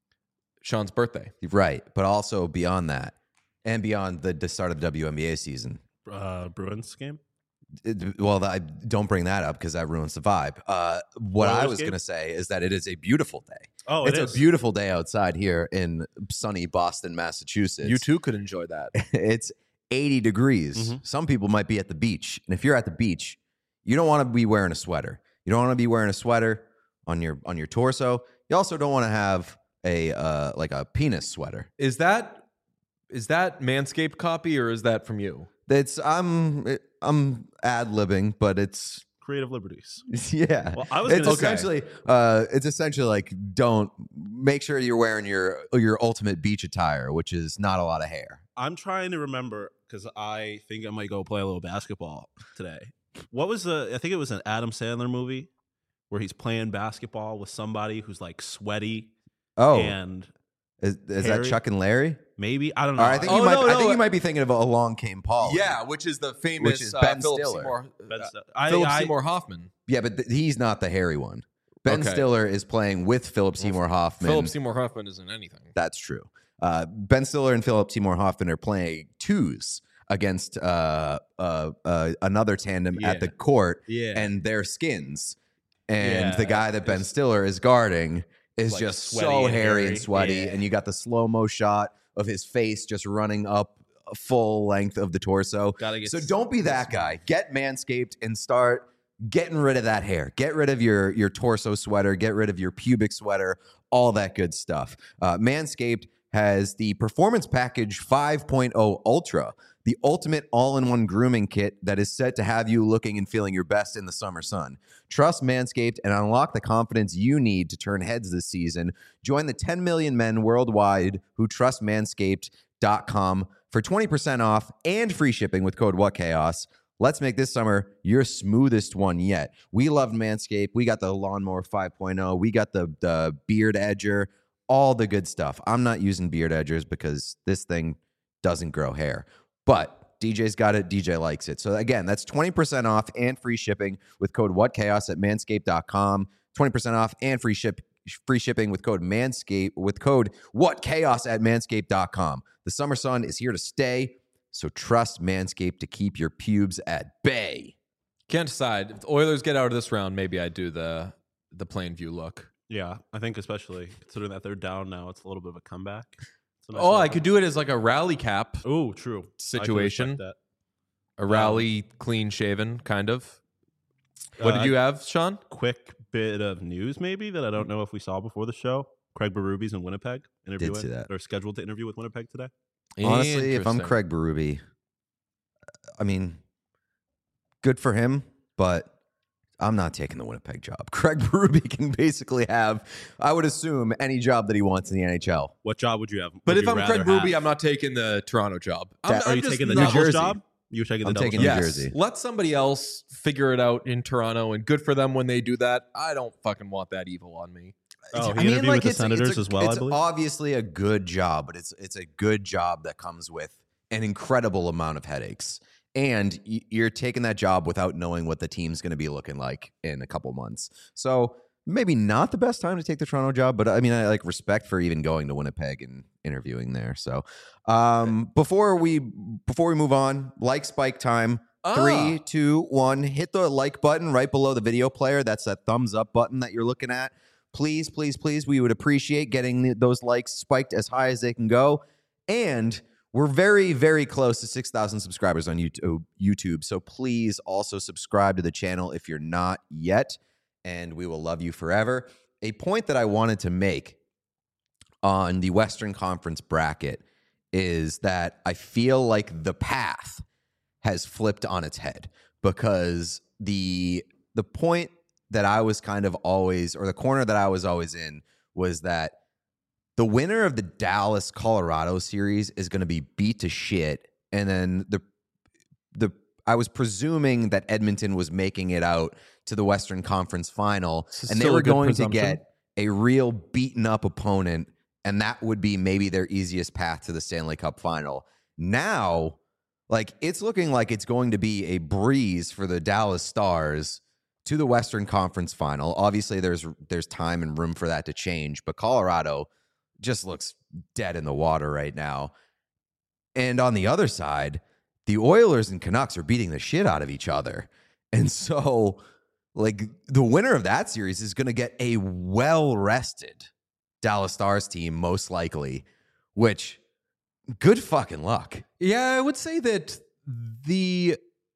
Sean's birthday. Right. But also beyond that and beyond the, the start of the W N B A season. Uh, Bruins game. It- well, I don't bring that up because that ruins the vibe. Uh, what I Oilers was game? going to say is that it is a beautiful day. Oh, it it's is. a beautiful day outside here in sunny Boston, Massachusetts. You too could enjoy that. It's eighty degrees. Mhm. Some people might be at the beach. And if you're at the beach, you don't want to be wearing a sweater. You don't want to be wearing a sweater on your on your torso. You also don't want to have a uh, like a penis sweater. Is that is that Manscaped copy or is that from you? It's I'm I'm ad-libbing, but it's Creative liberties. yeah. Well, I was it's gonna essentially uh, it's essentially like don't make sure you're wearing your your ultimate beach attire, which is not a lot of hair. I'm trying to remember because I think I might go play a little basketball today. What was the? I think it was an Adam Sandler movie where he's playing basketball with somebody who's like sweaty Oh, and is, is that Harry? Chuck and Larry? maybe I don't know. Or I think Oh, you might. no, I no, think uh, you might be thinking of Along Came Paul. Yeah, which is the famous Which is uh, Ben Philip Stiller. Seymour, Ben uh, St- I- Philip I- Seymour Hoffman. yeah, but th- he's not the hairy one. Ben Okay. Stiller is playing with Philip Seymour Hoffman. Philip Seymour Hoffman isn't anything. That's true. Uh, Ben Stiller and Philip Seymour Hoffman are playing twos against uh, uh, uh, another tandem Yeah. at the court, Yeah. and their skins. And Yeah, the guy that Ben it's- Stiller is guarding is Like just sweaty so and hairy hairy. and sweaty. Yeah. And you got the slow mo shot of his face just running up a full length of the torso. Gotta get So don't be that guy. Get Manscaped and start getting rid of that hair. Get rid of your your torso sweater. Get rid of your pubic sweater. All that good stuff. Uh, Manscaped has the Performance Package five point oh Ultra, the ultimate all-in-one grooming kit that is set to have you looking and feeling your best in the summer sun. Trust Manscaped and unlock the confidence you need to turn heads this season. Join the ten million men worldwide who trust manscaped dot com for twenty percent off and free shipping with code WhatChaos. Let's make this summer your smoothest one yet. We loved Manscaped. We got the Lawnmower five point oh. We got the, the Beard Edger, all the good stuff. I'm not using Beard Edgers because this thing doesn't grow hair. But D J's got it. D J likes it. So again, that's twenty percent off and free shipping with code WhatChaos at manscaped dot com. twenty percent off and free ship free shipping with code Manscaped with code WhatChaos at manscaped dot com. The summer sun is here to stay. So trust Manscaped to keep your pubes at bay. Can't decide. If the Oilers get out of this round, maybe I do the the plain view look. Yeah, I think especially considering that they're down now, it's a little bit of a comeback. It's a nice Oh, little I could do it as like a rally cap, Oh, true. I can situation. respect a rally clean shaven kind of. that. What Uh, did you have, Sean? Quick bit of news, maybe that I don't know if we saw before the show. Craig Berube in Winnipeg interviewing, see that. or scheduled to interview with Winnipeg today. Honestly, if I'm Interesting. Craig Berube, I mean, good for him, but I'm not taking the Winnipeg job. Craig Berube can basically have, I would assume, any job that he wants in the N H L. What job would you have? But would if you I'm rather Craig Berube, have? I'm not taking the Toronto job. I'm, That- Are I'm you just taking the not- New Devils Jersey. job? You're taking the I'm Devils taking job? New Yes. Jersey. Let somebody else figure it out in Toronto, and good for them when they do that. I don't fucking want that evil on me. Oh, I he mean, interviewed like with the it's a- Senators it's a- as well, I It's believe? obviously a good job, but it's it's a good job that comes with an incredible amount of headaches. And y- you're taking that job without knowing what the team's going to be looking like in a couple months. So maybe not the best time to take the Toronto job, but I mean, I like respect for even going to Winnipeg and interviewing there. So um, before we before we move on, like Spike time. Ah. Three, two, one. Hit the like button right below the video player. That's that thumbs up button that you're looking at. Please, please, please. We would appreciate getting the- those likes spiked as high as they can go. And we're very, very close to six thousand subscribers on YouTube, YouTube. So please also subscribe to the channel if you're not yet. And we will love you forever. A point that I wanted to make on the Western Conference bracket is that I feel like the path has flipped on its head, because the the point that I was kind of always, or the corner that I was always in, was that the winner of the Dallas Colorado series is going to be beat to shit, and then the the I was presuming that Edmonton was making it out to the Western Conference Final, and they were going to get a real beaten up opponent, and that would be maybe their easiest path to the Stanley Cup Final. Now, like, it's looking like it's going to be a breeze for the Dallas Stars to the Western Conference Final. Obviously, there's there's time and room for that to change, but Colorado just looks dead in the water right now. And on the other side, the Oilers and Canucks are beating the shit out of each other. And so, like, the winner of that series is going to get a well-rested Dallas Stars team, most likely, which, good fucking luck. Yeah, I would say that the...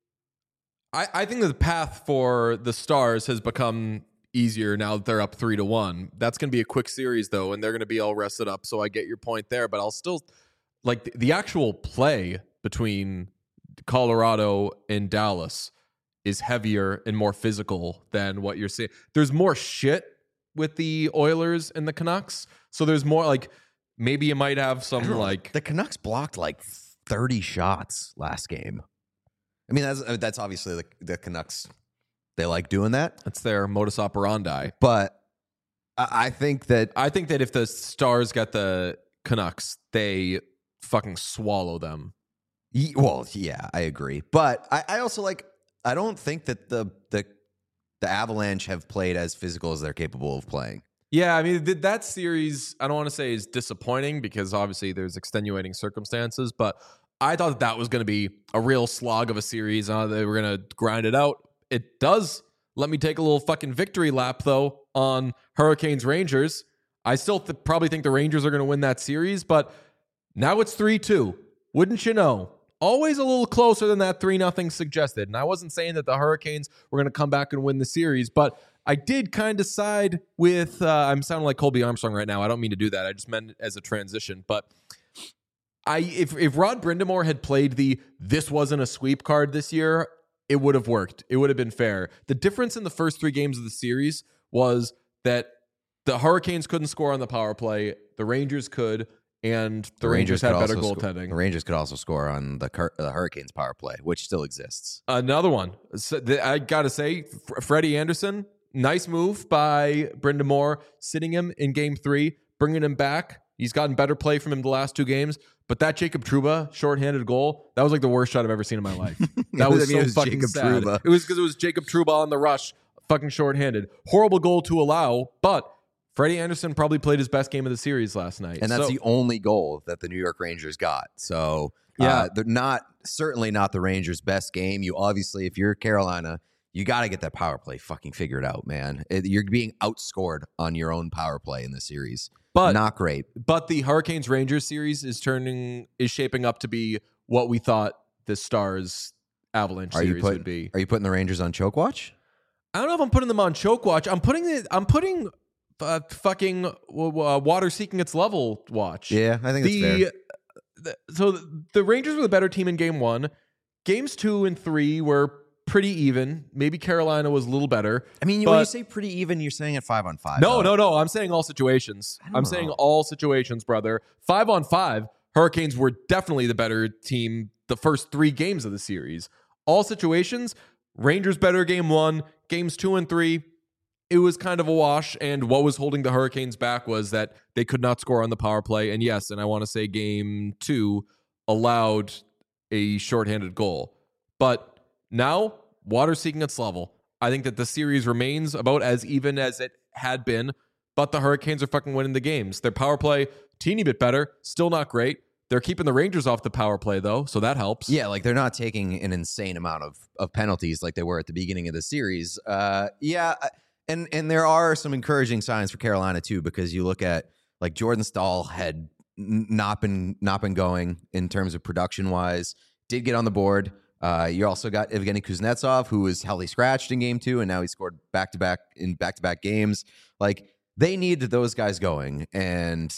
I, I think that the path for the Stars has become easier now that they're up three to one. That's going to be a quick series, though, and they're going to be all rested up, so I get your point there. But I'll still... Like, the, the actual play between Colorado and Dallas is heavier and more physical than what you're seeing. There's more shit with the Oilers and the Canucks. So there's more, like, maybe you might have some, like... The Canucks blocked, like, thirty shots last game. I mean, that's that's obviously the, the Canucks. They like doing that. That's their modus operandi. But I, I think that... I think that if the Stars got the Canucks, they fucking swallow them. Well, yeah, I agree. But I, I also, like... I don't think that the the the Avalanche have played as physical as they're capable of playing. Yeah, I mean, th- that series, I don't want to say is disappointing because obviously there's extenuating circumstances, but I thought that, that was going to be a real slog of a series. Uh, they were going to grind it out. It does let me take a little fucking victory lap, though, on Hurricanes Rangers. I still th- probably think the Rangers are going to win that series, but now it's three two. Wouldn't you know? Always a little closer than that three nothing suggested. And I wasn't saying that the Hurricanes were going to come back and win the series, but I did kind of side with, uh, I'm sounding like Colby Armstrong right now. I don't mean to do that. I just meant it as a transition. But I, if, if Rod Brind'Amour had played the this wasn't a sweep card this year, it would have worked. It would have been fair. The difference in the first three games of the series was that the Hurricanes couldn't score on the power play. The Rangers could. And the, the Rangers, Rangers had better goaltending. The Rangers could also score on the, Cur- the Hurricanes power play, which still exists. Another one. So th- I got to say, F- Freddie Anderson, nice move by Brind'Amour, sitting him in game three, bringing him back. He's gotten better play from him the last two games. But that Jacob Trouba shorthanded goal, that was like the worst shot I've ever seen in my life. That was I mean, so it was fucking Jacob sad. Trouba. It was because it was Jacob Trouba on the rush, fucking shorthanded. Horrible goal to allow, but Freddie Anderson probably played his best game of the series last night. And that's so, the only goal that the New York Rangers got. So yeah, uh, they're not certainly not the Rangers' best game. You obviously, if you're Carolina, you got to get that power play fucking figured out, man. It, you're being outscored on your own power play in the series. But not great. But the Hurricanes Rangers series is turning is shaping up to be what we thought the Stars Avalanche are series you put, would be. Are you putting the Rangers on choke watch? I don't know if I'm putting them on choke watch. I'm putting it. I'm putting. Uh, fucking uh, water seeking its level watch. Yeah, I think the, that's fair. The, so the Rangers were the better team in game one. Games two and three were pretty even. Maybe Carolina was a little better. I mean, when you say pretty even, you're saying it five on five. No, though. no, no. I'm saying all situations. I'm know. saying all situations, brother. Five on five, Hurricanes were definitely the better team the first three games of the series. All situations, Rangers better game one. Games two and three, it was kind of a wash, and what was holding the Hurricanes back was that they could not score on the power play. And yes, and I want to say game two allowed a shorthanded goal. But now, water seeking its level. I think that the series remains about as even as it had been, but the Hurricanes are fucking winning the games. Their power play, teeny bit better, still not great. They're keeping the Rangers off the power play, though, so that helps. Yeah, like they're not taking an insane amount of, of penalties like they were at the beginning of the series. Uh, yeah, And and there are some encouraging signs for Carolina too, because you look at like Jordan Staal had n- not been not been going in terms of production wise. Did get on the board. Uh, you also got Evgeny Kuznetsov, who was heavily scratched in game two, and now he scored back to back in back to back games. Like they need those guys going, and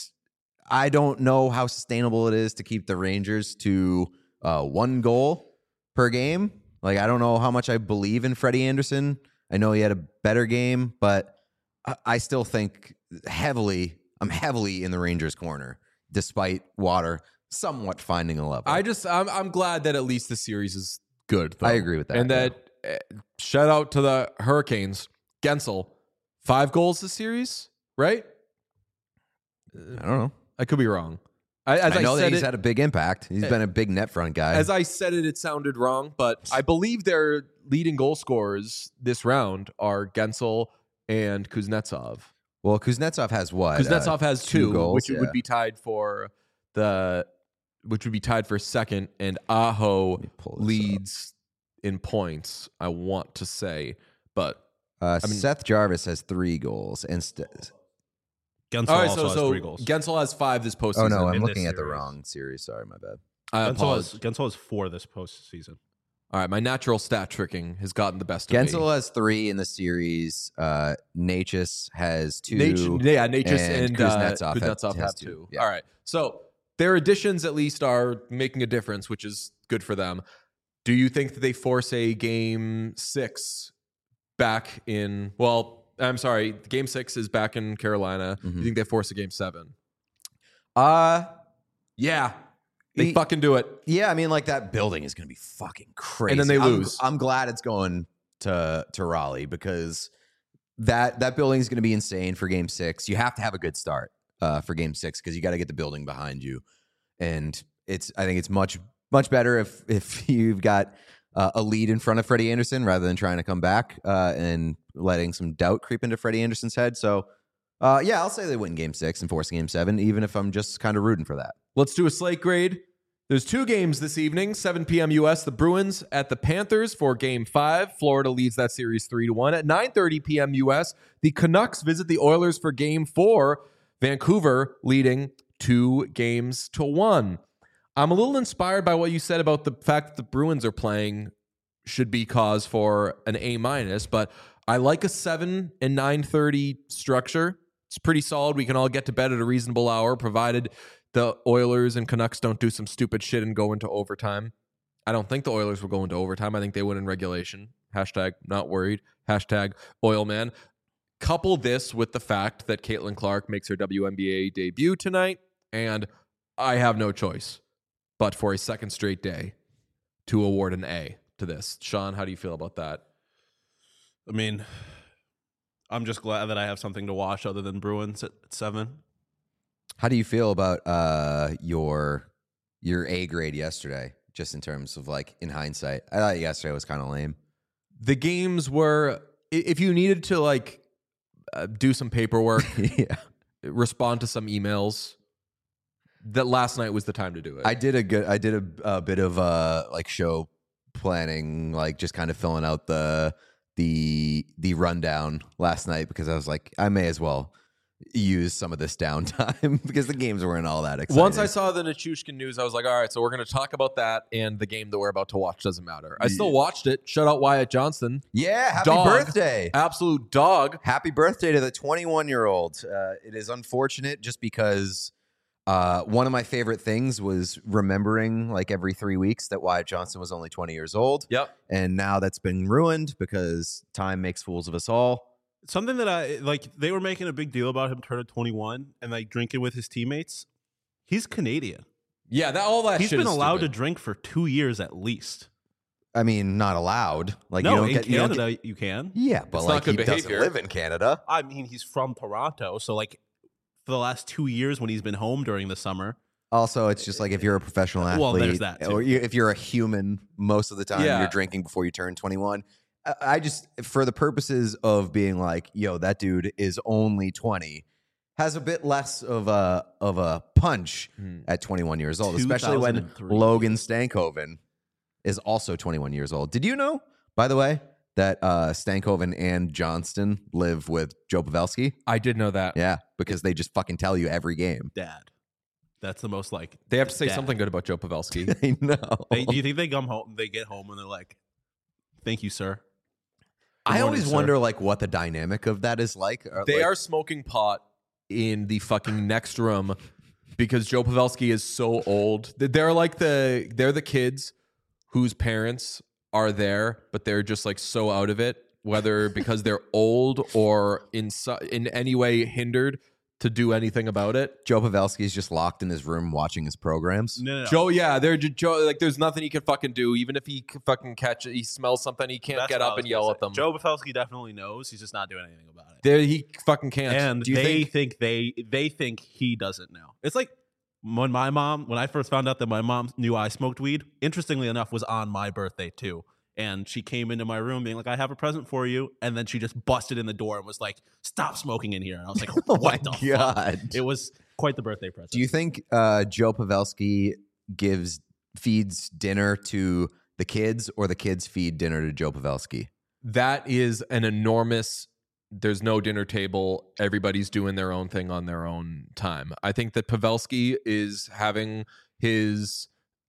I don't know how sustainable it is to keep the Rangers to uh, one goal per game. Like I don't know how much I believe in Freddie Anderson. I know he had a better game, but I still think heavily I'm heavily in the Rangers' corner, despite Water somewhat finding a level. I just I'm I'm glad that at least the series is good. Though. I agree with that, And that uh, shout out to the Hurricanes. Gensel, five goals this series, right? I don't know. I could be wrong. I, as I know I that said he's it, had a big impact. He's been a big net front guy. As I said it, it sounded wrong, but I believe their leading goal scorers this round are Gensel and Kuznetsov. well, Kuznetsov has what? Kuznetsov Uh, has two, goals, which yeah. would be tied for the, which would be tied for second, and Aho me pull this leads in points. I want to say, but Uh, I mean- Seth Jarvis has three goals. And st- Gensel all right, also so has so three goals. Gensel has five this postseason. oh, no, I'm in looking this at the series. wrong series. Sorry, my bad. I Gensel apologize. has, Gensel has four this postseason. All right, my natural stat tricking has gotten the best of me. Gensel has three in the series. Uh, Natchez has two. Nat- yeah, Natchez and and, uh, Kuznetsov Kuznetsov has have two. two. Yeah. All right. So their additions at least are making a difference, which is good for them. Do you think that they force a game six back in, well, I'm sorry, game six is back in Carolina. Mhm. Do you think they force a game seven? Uh, Yeah. They He- fucking do it. yeah, I mean, like that building is going to be fucking crazy. And then they I'm- lose. I'm, glad it's going to to Raleigh because that that building is going to be insane for Game Six. You have to have a good start uh, for Game Six because you got to get the building behind you, and it's I think it's much much better if if you've got uh, a lead in front of Freddie Anderson rather than trying to come back uh, and letting some doubt creep into Freddie Anderson's head. So, uh, yeah, I'll say they win Game Six and force Game Seven, even if I'm just kind of rooting for that. Let's do a slate grade. There's two games this evening, seven p.m. U S. The Bruins at the Panthers for game five. Florida leads that series three to one. At nine thirty p.m. U S, the Canucks visit the Oilers for game four. Vancouver leading two games to one. I'm a little inspired by what you said about the fact that the Bruins are playing should be cause for an A minus, but I like a seven and nine thirty structure. It's pretty solid. We can all get to bed at a reasonable hour, provided the Oilers and Canucks don't do some stupid shit and go into overtime. I don't think the Oilers will go into overtime. I think they win in regulation. Hashtag not worried. Hashtag Oilman. Couple this with the fact that Caitlin Clark makes her W N B A debut tonight, and I have no choice but for a second straight day to award an A to this. Sean, how do you feel about that? I mean, I'm just glad that I have something to watch other than Bruins at seven. How do you feel about uh, your your A grade yesterday? Just in terms of like in hindsight, I thought yesterday was kind of lame. The games were, i- if you needed to like uh, do some paperwork, yeah, respond to some emails, that last night was the time to do it. I did a good. I did a, a bit of uh like show planning, like just kind of filling out the the the rundown last night because I was like, I may as well use some of this downtime because the games weren't all that exciting. Once I saw the Nichushkin news, I was like, all right, so we're going to talk about that, and the game that we're about to watch doesn't matter. I still watched it. Shout out Wyatt Johnston. yeah, happy Dog. birthday. Absolute dog. Happy birthday to the twenty-one year old. Uh, it is unfortunate just because uh, one of my favorite things was remembering like every three weeks that Wyatt Johnston was only twenty years old. Yep. And now that's been ruined because time makes fools of us all. Something that I like, they were making a big deal about him turning twenty-one and like drinking with his teammates. He's Canadian. Yeah, that all that He's shit been is allowed stupid. to drink for two years at least. I mean, not allowed. Like no, you don't in get, you don't Canada get- you can. yeah, but It's like not he good doesn't behavior. live in Canada. I mean, he's from Toronto, so like for the last two years when he's been home during the summer. Also, it's just like if you're a professional athlete, Well, there's that, too. or you, if you're a human, most of the time Yeah. you're drinking before you turn twenty-one. I, I just, for the purposes of being like, yo, that dude is only twenty, has a bit less of a of a punch Hmm. at twenty-one years old, especially when two thousand three. Logan Stankoven is also twenty-one years old. Did you know, by the way, that uh, Stankoven and Johnston live with Joe Pavelski? I did know that. Yeah, because they just fucking tell you every game. Dad. That's the most like. They have to say Dad. something good about Joe Pavelski. I know. They, do you think they come home? They get home and they're like, "Thank you, sir." Good I morning, always sir. wonder like what the dynamic of that is like. Or, They like- are smoking pot in the fucking next room because Joe Pavelski is so old. They're like the they're the kids whose parents are there, but they're just like so out of it, whether because they're old or in so, in any way hindered to do anything about it. Joe Pavelski's just locked in his room watching his programs. No, no, no. Joe, yeah, they're just, Joe. Like, there's nothing he can fucking do. Even if he can fucking catch it, he smells something, he can't That's get what I up was and yell gonna at say. them. Joe Pavelski definitely knows. He's just not doing anything about it. There, he fucking can't. And do you they think? think they they think he doesn't know. It's like when my mom, when I first found out that my mom knew I smoked weed, interestingly enough, was on my birthday too. And she came into my room being like, I have a present for you. And then she just busted in the door and was like, stop smoking in here. And I was like, Oh what my the God. fuck? It was quite the birthday present. Do you think uh, Joe Pavelski gives feeds dinner to the kids, or the kids feed dinner to Joe Pavelski? That is an enormous. There's no dinner table. Everybody's doing their own thing on their own time. I think that Pavelski is having his.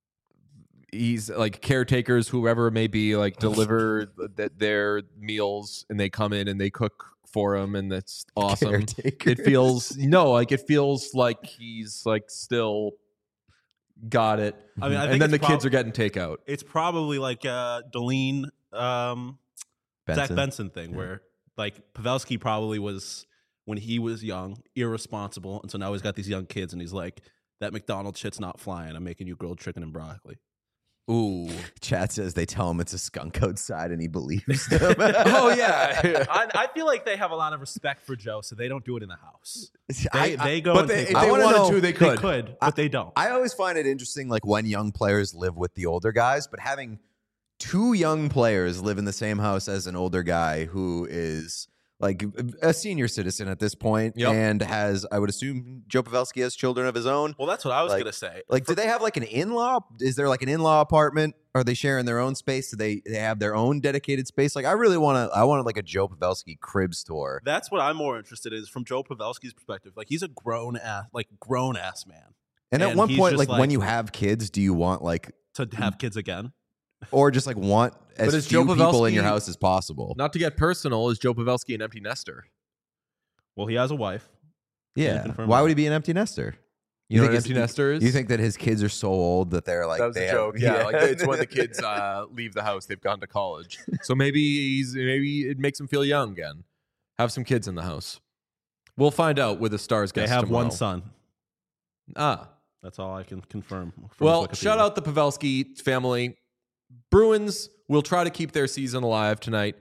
He's like caretakers, whoever it may be, like deliver th- their meals, and they come in and they cook for him, and that's awesome. Caretakers. It feels no, like it feels like he's like still got it. I mean, I think and then the it's kids prob- are getting takeout. It's probably like uh, Deline, um, Benson. Zach Benson thing, Yeah. where like Pavelski probably was when he was young, irresponsible, and so now he's got these young kids, and he's like, "That McDonald's shit's not flying. I'm making you grilled chicken and broccoli." Ooh, Chat says they tell him it's a skunk outside, and he believes them. oh yeah. I, I feel like they have a lot of respect for Joe, so they don't do it in the house. They, I, they go but and they, take if I they it. wanna wanted know- to, they They could. could, but they don't. I always find it interesting, like when young players live with the older guys, but having two young players live in the same house as an older guy who is like a senior citizen at this point, Yep. and has, I would assume, Joe Pavelski has children of his own. Well, that's what I was Like- gonna say. Like, do they have like an in-law? Is there like an in-law apartment? Are they sharing their own space? Do they they have their own dedicated space? Like, I really want to. I want like a Joe Pavelski cribs tour. That's what I'm more interested in, is from Joe Pavelski's perspective. Like, he's a grown ass, like grown ass man. And at And one he's point, just like, like- when you have kids, do you want like, To have kids again. or just like want as But is few Joe people in your Pavelski- house as possible? Not to get personal, is Joe Pavelski an empty nester? Well, he has a wife. Yeah. confirm Why that. would he be an empty nester? You, know think what his- empty nester is? You think that his kids are so old that they're like that was they a have- joke? Yeah, like it's when the kids uh, leave the house, they've gone to college. So maybe he's maybe it makes him feel young again. Have some kids in the house. We'll find out with the Stars They guest have tomorrow. one son. Ah, That's all I can confirm. from well, Wikipedia. shout out the Pavelski family. Bruins will try to keep their season alive tonight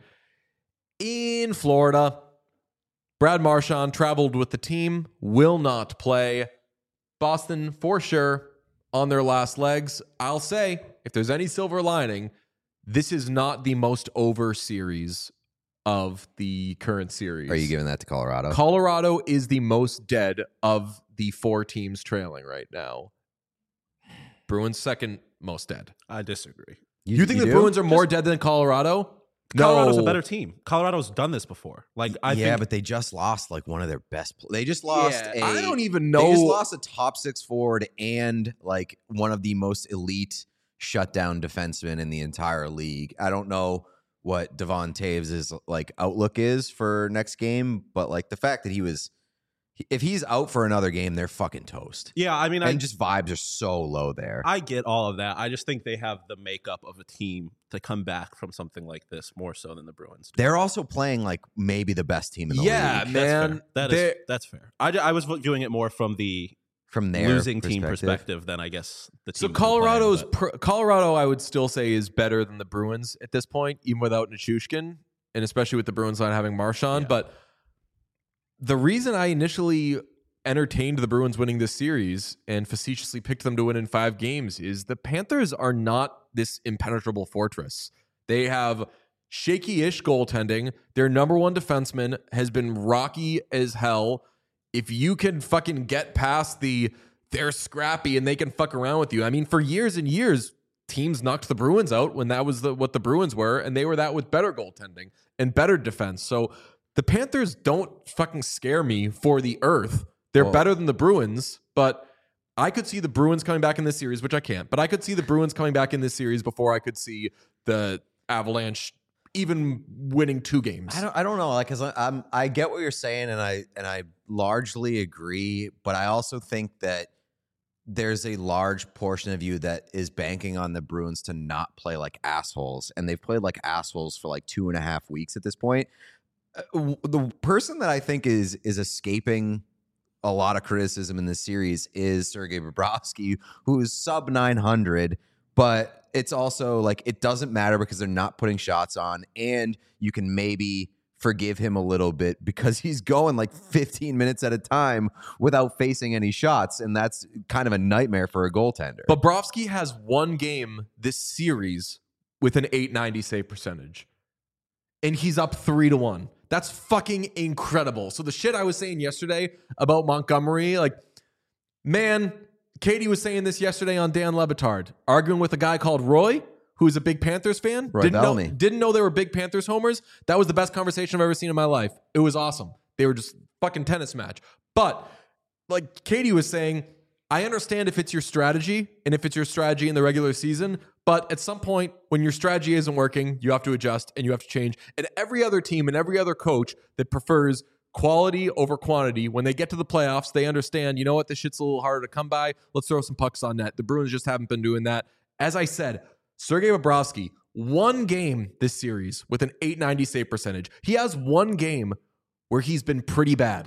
in Florida. Brad Marchand traveled with the team, will not play. Boston, for sure, on their last legs. I'll say, if there's any silver lining, this is not the most over series of the current series. Are you giving that to Colorado? Colorado is the most dead of the four teams trailing right now. Bruins second most dead. I disagree. You, think the do? Bruins are more dead than Colorado? Colorado's no. a better team. Colorado's done this before. Like I yeah, think but they just lost like one of their best. Pl- they just lost. Yeah, a, I don't even They just know. lost a top six forward and like one of the most elite shutdown defensemen in the entire league. I don't know what Devon Taves' like outlook is for next game, but like the fact that he was, if he's out for another game, they're fucking toast. yeah, I mean I And just vibes are so low there. I get all of that. I just think they have the makeup of a team to come back from something like this more so than the Bruins do. They're also playing like maybe the best team in the Yeah, league man. That's fair. That They're- is that's fair. I, I was viewing it more from the from their losing team perspective. perspective than I guess the team. So Colorado's pr- Colorado, I would still say, is better than the Bruins at this point, even without Nichushkin, and especially with the Bruins not having Marchand. Yeah. But the reason I initially entertained the Bruins winning this series and facetiously picked them to win in five games is the Panthers are not this impenetrable fortress. They have shaky-ish goaltending. Their number one defenseman has been rocky as hell. If you can fucking get past the they're scrappy and they can fuck around with you. I mean, for years and years, teams knocked the Bruins out when that was the, what the Bruins were, and they were that with better goaltending and better defense. So the Panthers don't fucking scare me for the earth. They're Well- better than the Bruins, but I could see the Bruins coming back in this series, which I can't, but I could see the Bruins coming back in this series before I could see the Avalanche even winning two games. I don't. I don't know. Like, cause I'm. I get what you're saying, and I and I largely agree. But I also think that there's a large portion of you that is banking on the Bruins to not play like assholes, and they've played like assholes for like two and a half weeks at this point. Uh, w- the person that I think is is escaping a lot of criticism in this series is Sergei Bobrovsky, who's sub nine hundred, but it's also like it doesn't matter because they're not putting shots on, and you can maybe forgive him a little bit because he's going like fifteen minutes at a time without facing any shots, and that's kind of a nightmare for a goaltender. Bobrovsky has one game this series with an eight ninety save percentage, and he's up three to one. That's fucking incredible. So the shit I was saying yesterday about Montgomery, like, man, Katie was saying this yesterday on Dan Le Batard, arguing with a guy called Roy, who's a big Panthers fan. Roy didn't know, Bellamy. didn't know they were big Panthers homers. That was the best conversation I've ever seen in my life. It was awesome. They were just fucking tennis match. But like Katie was saying, I understand if it's your strategy and if it's your strategy in the regular season, but at some point when your strategy isn't working, you have to adjust and you have to change. And every other team and every other coach that prefers quality over quantity, when they get to the playoffs, they understand, you know what, this shit's a little harder to come by. Let's throw some pucks on net. The Bruins just haven't been doing that. As I said, Sergei Bobrovsky, one game this series with an eight ninety save percentage. He has one game where he's been pretty bad.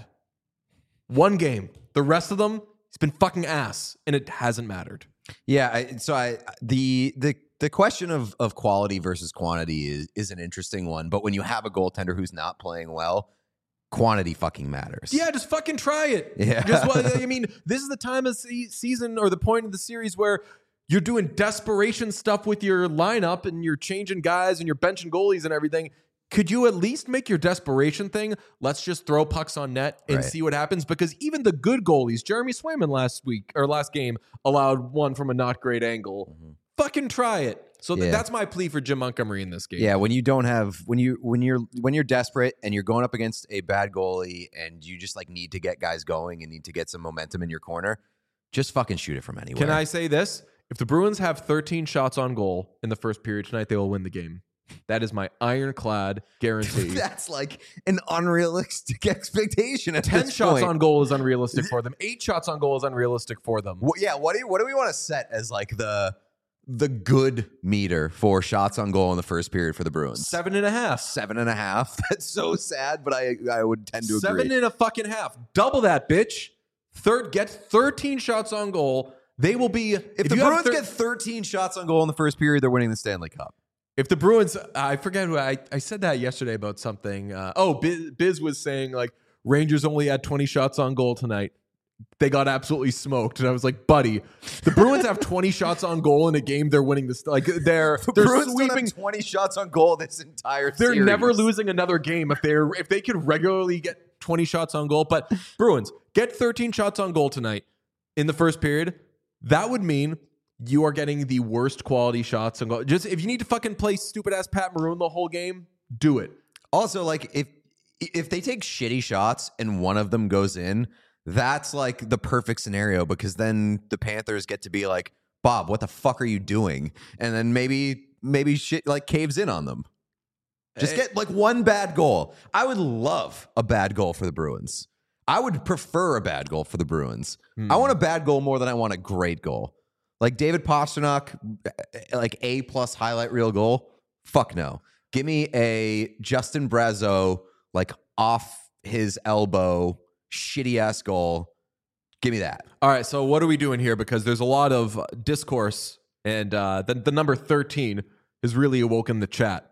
One game. The rest of them, he's been fucking ass, and it hasn't mattered. Yeah, I, so I the the the question of of quality versus quantity is is an interesting one. But when you have a goaltender who's not playing well, quantity fucking matters. Yeah, just fucking try it. Yeah. Just I mean, this is the time of se- season or the point of the series where you're doing desperation stuff with your lineup and you're changing guys and you're benching goalies and everything. Could you at least make your desperation thing? Let's just throw pucks on net and right. see what happens. Because even the good goalies, Jeremy Swayman last week or last game allowed one from a not great angle. Mm-hmm. Fucking try it. So th- yeah. that's my plea for Jim Montgomery in this game. Yeah, when you don't have when you when you're when you're desperate and you're going up against a bad goalie and you just like need to get guys going and need to get some momentum in your corner, just fucking shoot it from anywhere. Can I say this? If the Bruins have thirteen shots on goal in the first period tonight, they will win the game. That is my ironclad guarantee. That's like an unrealistic expectation. At Ten this shots point. on goal is unrealistic for them. Eight shots on goal is unrealistic for them. Well, yeah, what do you, what do we want to set as like the the good meter for shots on goal in the first period for the Bruins? Seven and a half. Seven and a half. That's so sad, but I I would tend to Seven agree. and a fucking half. Double that, bitch. Third, get thirteen shots on goal. They will be. If, if the you have Bruins thir- get thirteen shots on goal in the first period, they're winning the Stanley Cup. If the Bruins, I forget who I, I said that yesterday about something. Uh, oh, Biz, Biz was saying like Rangers only had twenty shots on goal tonight. They got absolutely smoked, and I was like, buddy, the Bruins have twenty shots on goal in a game. They're winning this. Like they're The they're Bruins sweeping. don't have twenty shots on goal this entire They're series. never losing another game if they're if they could regularly get twenty shots on goal. But Bruins get thirteen shots on goal tonight in the first period. That would mean you are getting the worst quality shots on goal. Just if you need to fucking play stupid ass Pat Maroon the whole game, do it. Also, like if if they take shitty shots and one of them goes in, that's like the perfect scenario because then the Panthers get to be like, Bob, what the fuck are you doing? And then maybe maybe shit like caves in on them. Just get like one bad goal. I would love a bad goal for the Bruins. I would prefer a bad goal for the Bruins. Hmm. I want a bad goal more than I want a great goal. Like David Pastrnak, like A plus highlight reel goal. Fuck no. Give me a Justin Brazeau, like off his elbow, shitty ass goal. Give me that. All right, so what are we doing here? Because there's a lot of discourse, and uh, the, the number thirteen has really awoken the chat.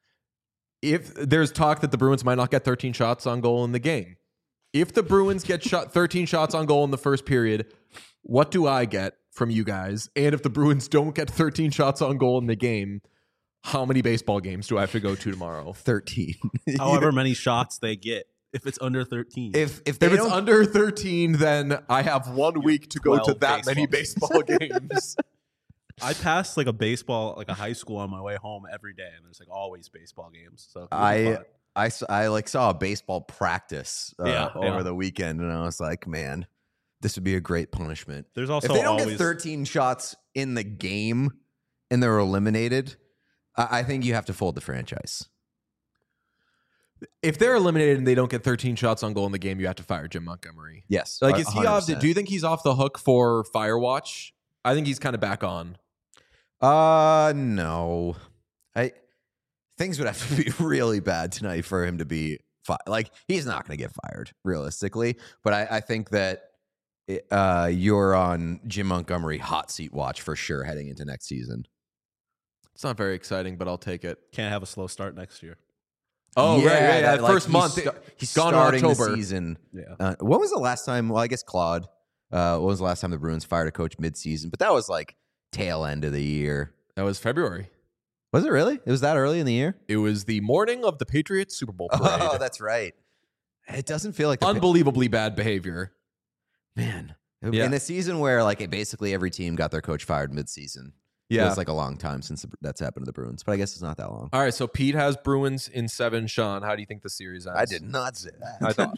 If there's talk that the Bruins might not get thirteen shots on goal in the game, if the Bruins get shot thirteen shots on goal in the first period, what do I get from you guys? And if the Bruins don't get thirteen shots on goal in the game, how many baseball games do I have to go to tomorrow? thirteen. However many shots they get. If it's under thirteen. If if they If it's don't, under thirteen, then I have one week to go to twelve that many baseball baseball games. I pass like a baseball, like a high school on my way home every day, and there's like always baseball games. So it'll be I fun. I s- I like saw a baseball practice uh, Yeah, over yeah. the weekend, and I was like, man, this would be a great punishment. There's also If they don't always get thirteen shots in the game and they're eliminated, I, I think you have to fold the franchise. If they're eliminated and they don't get thirteen shots on goal in the game, you have to fire Jim Montgomery. Yes, Like, a- is he one hundred off? percent. Do you think he's off the hook for Firewatch? I think he's kind of back on. Uh, no. I things would have to be really bad tonight for him to be fi- like he's not going to get fired realistically. But I, I think that it, uh, you're on Jim Montgomery hot seat watch for sure heading into next season. It's not very exciting, but I'll take it. Can't have a slow start next year. Oh, Yeah, right, right. Yeah, that, like, first he's month. sta- he's gone in starting the October. season. Yeah. Uh, when was the last time? Well, I guess Claude. Uh, when was the last time the Bruins fired a coach mid-season? But that was like tail end of the year. That was February. Was it really? It was that early in the year? It was the morning of the Patriots Super Bowl parade. Oh, that's right. It doesn't feel like the Unbelievably bad behavior. man. Yeah. In a season where like it basically every team got their coach fired mid-season. Yeah. Feels like a long time since the, that's happened to the Bruins, but I guess it's not that long. All right, so Pete has Bruins in seven. Sean, how do you think the series ends? I did not say that. I thought.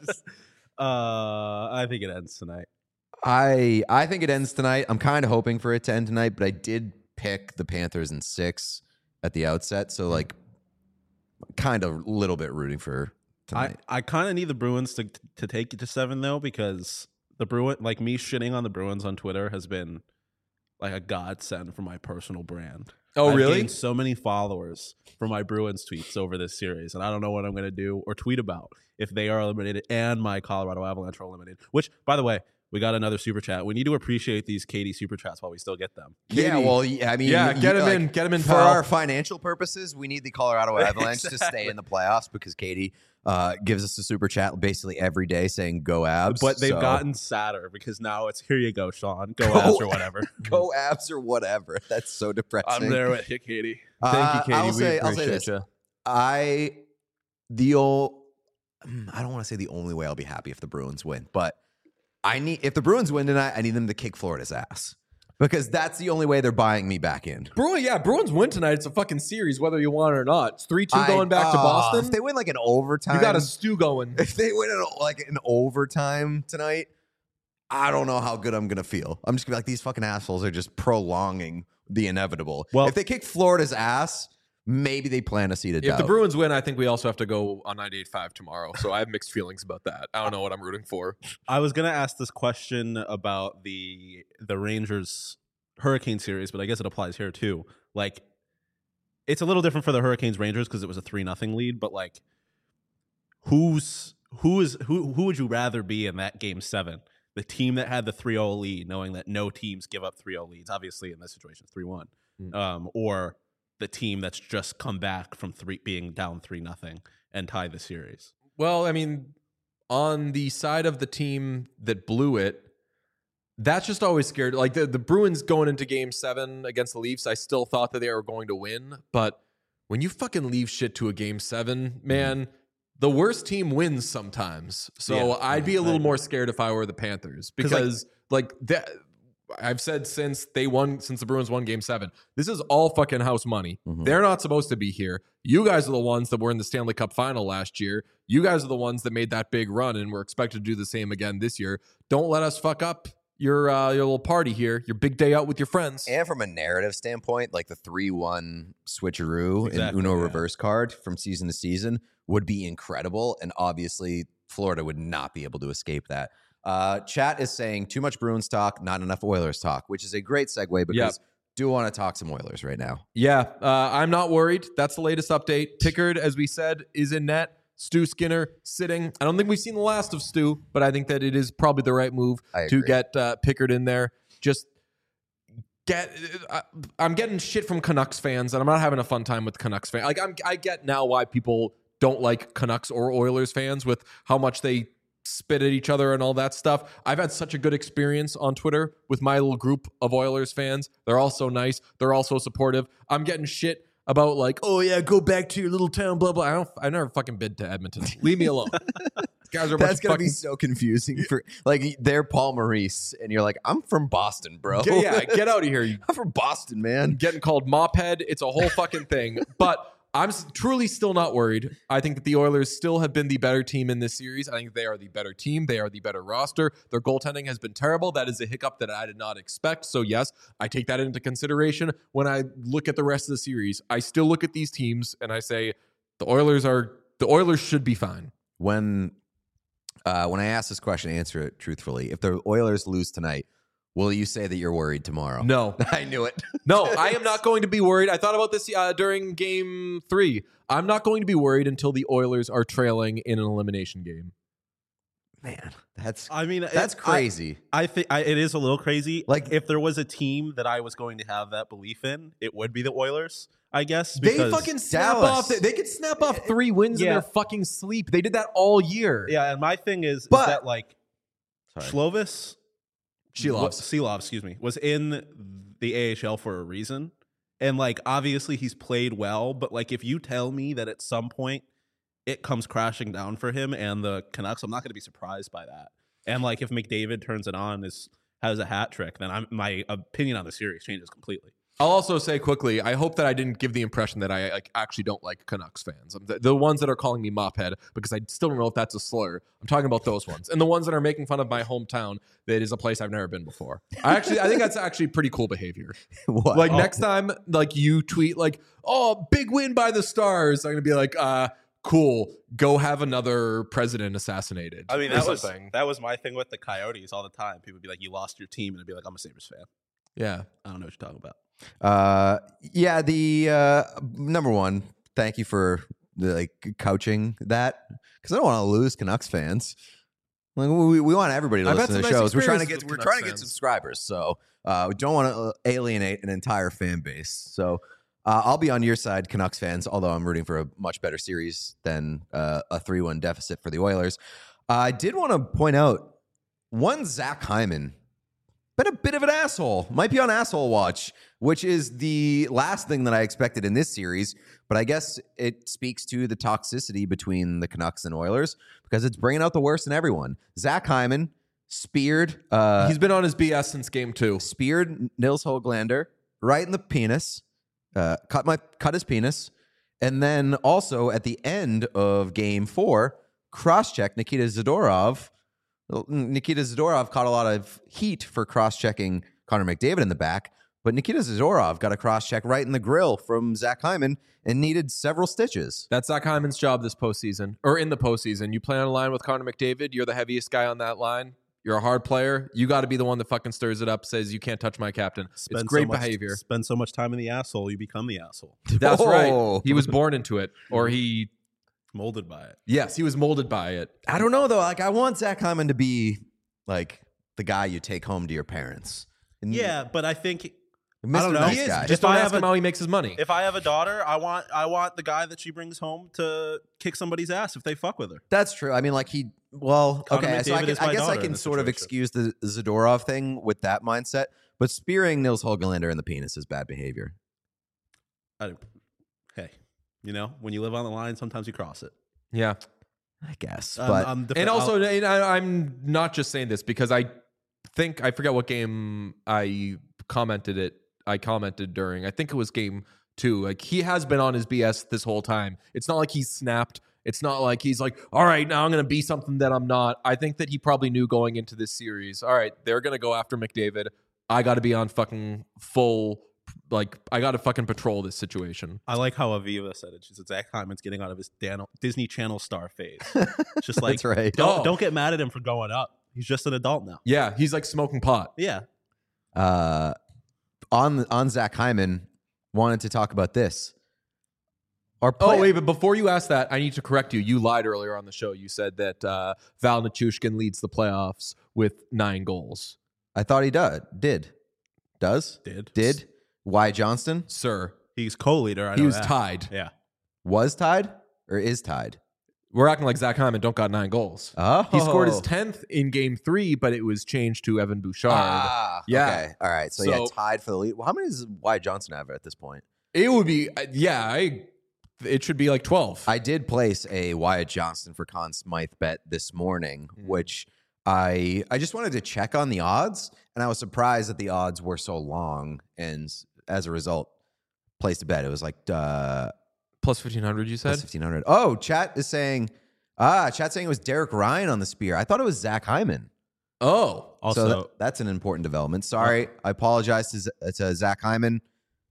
Uh, I think it ends tonight. I I think it ends tonight. I'm kind of hoping for it to end tonight, but I did pick the Panthers in six at the outset, so like kind of a little bit rooting for I, tonight. I kind of need the Bruins to to take it to seven though, because the Bruin like me shitting on the Bruins on Twitter has been like a godsend for my personal brand. Oh, I've really? gained so many followers for my Bruins tweets over this series, and I don't know what I'm going to do or tweet about if they are eliminated and my Colorado Avalanche are eliminated. Which, by the way, we got another super chat. We need to appreciate these Katie super chats while we still get them. Yeah, Katie. well, yeah, I mean, Yeah, you- get him like, in, get him in, for pal. our financial purposes. We need the Colorado Avalanche to stay in the playoffs because Katie uh, gives us a super chat basically every day saying "Go Abs." But they've so- gotten sadder because now it's here you go, Sean. Go, Go Avs or whatever. "Go Abs" or whatever. That's so depressing. I'm there with you, Katie. Uh, Thank you, Katie. I'll We say, I'll say appreciate this. you. I the old, I don't want to say the only way I'll be happy if the Bruins win, but I need if the Bruins win tonight, I need them to kick Florida's ass because that's the only way they're buying me back in. Bruins, yeah, Bruins win tonight. It's a fucking series, whether you want it or not. It's three two I- going back to uh, Boston. If they win like an overtime, You got a stew going. if they win an, like an overtime tonight, I don't know how good I'm gonna feel. I'm just gonna be like, these fucking assholes are just prolonging the inevitable. Well- if they kick Florida's ass, maybe they plan a seat of If doubt. the Bruins win, I think we also have to go on ninety-eight point five tomorrow. So I have mixed feelings about that. I don't know what I'm rooting for. I was gonna ask this question about the the Rangers Hurricane series, but I guess it applies here too. Like, it's a little different for the Hurricanes Rangers because it was a three nothing lead, but like, who's who is who who would you rather be in that game seven? The team that had the three oh lead, knowing that no teams give up three oh leads. Obviously, in this situation, it's three one, Mm. um, or the team that's just come back from three being down three nothing and tie the series. Well, I mean, on the side of the team that blew it, that's just always scared. Like the, the Bruins going into game seven against the Leafs, I still thought that they were going to win. But when you fucking leave shit to a game seven, man, the worst team wins sometimes. So Yeah, I'd be yeah, a I little agree. more scared if I were the Panthers 'Cause, like- because like that. I've said since they won, since the Bruins won game seven, this is all fucking house money. Mhm. They're not supposed to be here. You guys are the ones that were in the Stanley Cup final last year. You guys are the ones that made that big run and we're expected to do the same again this year. Don't let us fuck up your uh, your little party here, your big day out with your friends. And from a narrative standpoint, like the three one switcheroo Exactly, and Uno yeah. reverse card from season to season would be incredible. And obviously, Florida would not be able to escape that. Uh, chat is saying too much Bruins talk, not enough Oilers talk, which is a great segue because Yep. do want to talk some Oilers right now. Yeah, uh, I'm not worried. That's the latest update. Pickard, as we said, is in net. Stu Skinner sitting. I don't think we've seen the last of Stu, but I think that it is probably the right move I to agree. get uh, Pickard in there. Just get. I, I'm getting shit from Canucks fans, and I'm not having a fun time with Canucks fans. Like I'm, I get now why people don't like Canucks or Oilers fans with how much they spit at each other and all that stuff. I've had such a good experience on Twitter with my little group of Oilers fans. They're all so nice. They're all so supportive. I'm getting shit about like, oh yeah, go back to your little town, blah blah. I don't. I never fucking been to Edmonton. Leave me alone. These guys are a bunch That's of gonna fucking. be so confusing for like they're Paul Maurice, and you're like, I'm from Boston, bro. Get- yeah, get out of here. You I'm from Boston, man. getting called mophead. It's a whole fucking thing. But I'm s- truly still not worried. I think that the Oilers still have been the better team in this series. I think they are the better team. They are the better roster. Their goaltending has been terrible. That is a hiccup that I did not expect. So yes, I take that into consideration when I look at the rest of the series. I still look at these teams and I say the Oilers are the Oilers should be fine. When uh, when I ask this question, answer it truthfully. If the Oilers lose tonight, Will you say that you're worried tomorrow? No. I knew it. No, I am not going to be worried. I thought about this uh, during game three. I'm not going to be worried until the Oilers are trailing in an elimination game. Man, that's I mean, that's it, crazy. I, I think I, it is a little crazy. Like- Like, if there was a team that I was going to have that belief in, it would be the Oilers, I guess. They because- fucking snap Dallas. off. They could snap off three wins in Yeah. their fucking sleep. They did that all year. Yeah, and my thing is, is But- that like Sorry. Slovis, Sheelov. wa- Seelov, excuse me, was in the A H L for a reason, and like obviously he's played well. But like, if you tell me that at some point it comes crashing down for him and the Canucks, I'm not going to be surprised by that. And like, if McDavid turns it on, is has a hat trick, then I'm, my opinion on the series changes completely. I'll also say quickly, I hope that I didn't give the impression that I like actually don't like Canucks fans. The, the ones that are calling me mophead, because I still don't know if that's a slur. I'm talking about those ones. And the ones that are making fun of my hometown, that is a place I've never been before. I actually I think that's actually pretty cool behavior. What? Like Oh. next time, like you tweet like, oh, big win by the Stars, I'm gonna be like, uh, cool, go have another president assassinated. I mean, or that was something. that was my thing with the Coyotes all the time. People would be like, "You lost your team," and I'd be like, "I'm a Sabres fan. Yeah. I don't know what you're talking about." Uh, yeah, the uh, number one. Thank you for the, like couching that because I don't want to lose Canucks fans. Like we, we want everybody to I've listen had to the some nice shows. We're trying to experiences get with we're Canucks trying to get fans. subscribers, so uh, we don't want to alienate an entire fan base. So uh, I'll be on your side, Canucks fans. Although I'm rooting for a much better series than uh, a three one deficit for the Oilers. Uh, I did want to point out one Zach Hyman. Been a bit of an asshole. Might be on asshole watch, which is the last thing that I expected in this series. But I guess it speaks to the toxicity between the Canucks and Oilers because it's bringing out the worst in everyone. Zach Hyman speared. Uh, He's been on his B S since game two. speared Nils Höglander right in the penis. Uh, cut my cut his penis, and then also at the end of Game Four, cross-check Nikita Zadorov. Nikita Zadorov caught a lot of heat for cross-checking Connor McDavid in the back, but Nikita Zadorov got a cross-check right in the grill from Zach Hyman and needed several stitches. That's Zach Hyman's job this postseason, or in the postseason. You play on a line with Connor McDavid. You're the heaviest guy on that line. You're a hard player. You got to be the one that fucking stirs it up, says you can't touch my captain. Spend it's great so much, behavior. Spend so much time in the asshole, you become the asshole. That's Oh. right. He was born into it, or he, Molded by it. yes, he was molded by it. I don't know, though. Like, I want Zach Hyman to be, like, the guy you take home to your parents. And Yeah, but I think Mister I don't know. Nice He is guy. Just If don't I ask have him a- how he makes his money. if I have a daughter, I want I want the guy that she brings home to kick somebody's ass if they fuck with her. That's true. I mean, like he, well, Connor okay. So I, McDavid can, is I my guess I daughter in can this sort of situation. excuse the Zadorov thing with that mindset, but spearing Nils Höglander in the penis is bad behavior. I, hey, you know, when you live on the line, sometimes you cross it. Yeah. I guess, Um, but I'm defi- And also, I'll- and I, I'm not just saying this because I think, I forget what game I commented it. I commented during, I think it was game two. Like, he has been on his B S this whole time. It's not like he's snapped. It's not like he's like, all right, now I'm going to be something that I'm not. I think that he probably knew going into this series, all right, they're going to go after McDavid. I got to be on fucking full, like, I got to fucking patrol this situation. I like how Aviva said it. She said Zach Hyman's getting out of his Dan- Disney Channel star phase. It's just like, that's right. don't Oh. don't get mad at him for going up. He's just an adult now. Yeah, he's like smoking pot. Yeah. Uh, on on Zach Hyman, wanted to talk about this. Our Oh, play- wait, but before you ask that, I need to correct you. You lied earlier on the show. You said that uh, Val Nichushkin leads the playoffs with nine goals. I thought he did. Did does Did. did Wyatt Johnston Sir, He's co-leader. I he know was that. tied. Yeah. was tied or is tied? We're acting like Zach Hyman don't got nine goals. Oh, He scored his tenth in game three, but it was changed to Evan Bouchard. Ah, Yeah. Okay. All right. So, yeah, So- tied for the lead. Well, how many does Wyatt Johnson have at this point? It would be, uh, yeah, I. It should be like twelve. I did place a Wyatt Johnston for Conn Smythe bet this morning, Mm. which I I just wanted to check on the odds, and I was surprised that the odds were so long, and as a result, placed a bet. It was like uh, Plus fifteen hundred, you said? plus fifteen hundred. Oh, chat is saying ah, chat saying it was Derek Ryan on the spear. I thought it was Zach Hyman. Oh. Also, so that- that's an important development. Sorry, I apologize to, Z- to Zach Hyman.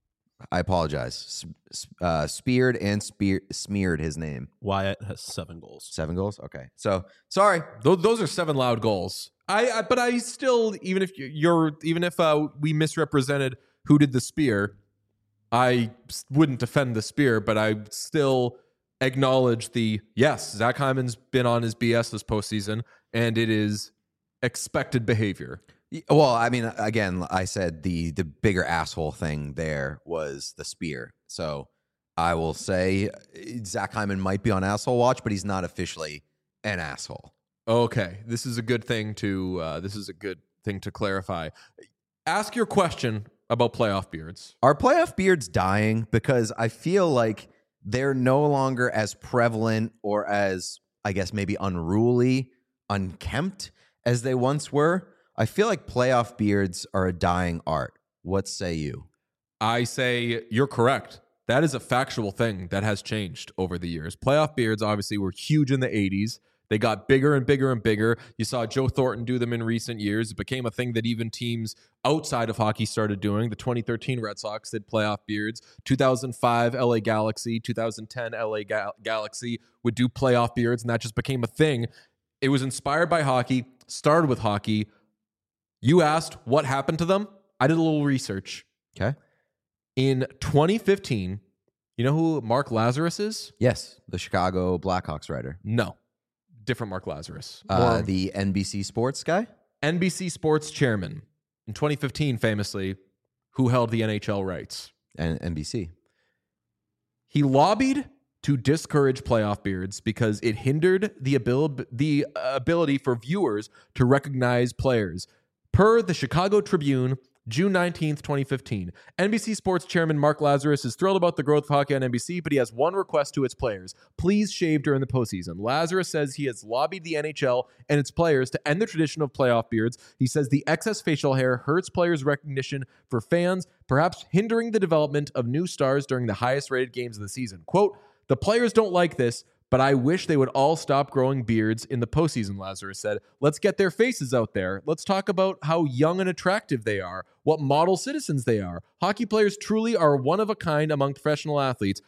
I apologize. S- uh, speared and spear, smeared his name. Wyatt has seven goals. Seven goals. Okay. So sorry. Those, those are seven loud goals. I, I but I still, even if you're, even if uh, we misrepresented who did the spear, I wouldn't defend the spear, but I still acknowledge the, yes, Zach Hyman's been on his B S this postseason, and it is expected behavior. Well, I mean, again, I said the the bigger asshole thing there was the spear. So I will say Zach Hyman might be on asshole watch, but he's not officially an asshole. Okay, this is a good thing to uh, this is a good thing to clarify. Ask your question about playoff beards. Are playoff beards dying? Because I feel like they're no longer as prevalent or as, I guess, maybe unruly, unkempt as they once were. I feel like playoff beards are a dying art. What say you? I say you're correct. That is a factual thing that has changed over the years. Playoff beards obviously were huge in the eighties. They got bigger and bigger and bigger. You saw Joe Thornton do them in recent years. It became a thing that even teams outside of hockey started doing. The twenty thirteen Red Sox did playoff beards. two thousand five L A Galaxy, two thousand ten L A Gal- Galaxy would do playoff beards, and that just became a thing. It was inspired by hockey, started with hockey. You asked what happened to them. I did a little research. Okay. In twenty fifteen, you know who Mark Lazarus is? Yes, the Chicago Blackhawks writer. No. Different Mark Lazarus. Uh, the N B C Sports guy? N B C Sports chairman. In twenty fifteen, famously, who held the N H L rights? And N B C. He lobbied to discourage playoff beards because it hindered the abil- the ability for viewers to recognize players. Per the Chicago Tribune, June nineteenth, twenty fifteen, N B C Sports chairman Mark Lazarus is thrilled about the growth of hockey on N B C, but he has one request to its players. Please shave during the postseason. Lazarus says he has lobbied the N H L and its players to end the tradition of playoff beards. He says the excess facial hair hurts players' recognition for fans, perhaps hindering the development of new stars during the highest-rated games of the season. Quote, the players don't like this, but I wish they would all stop growing beards in the postseason, Lazarus said. Let's get their faces out there. Let's talk about how young and attractive they are, what model citizens they are. Hockey players truly are one of a kind among professional athletes.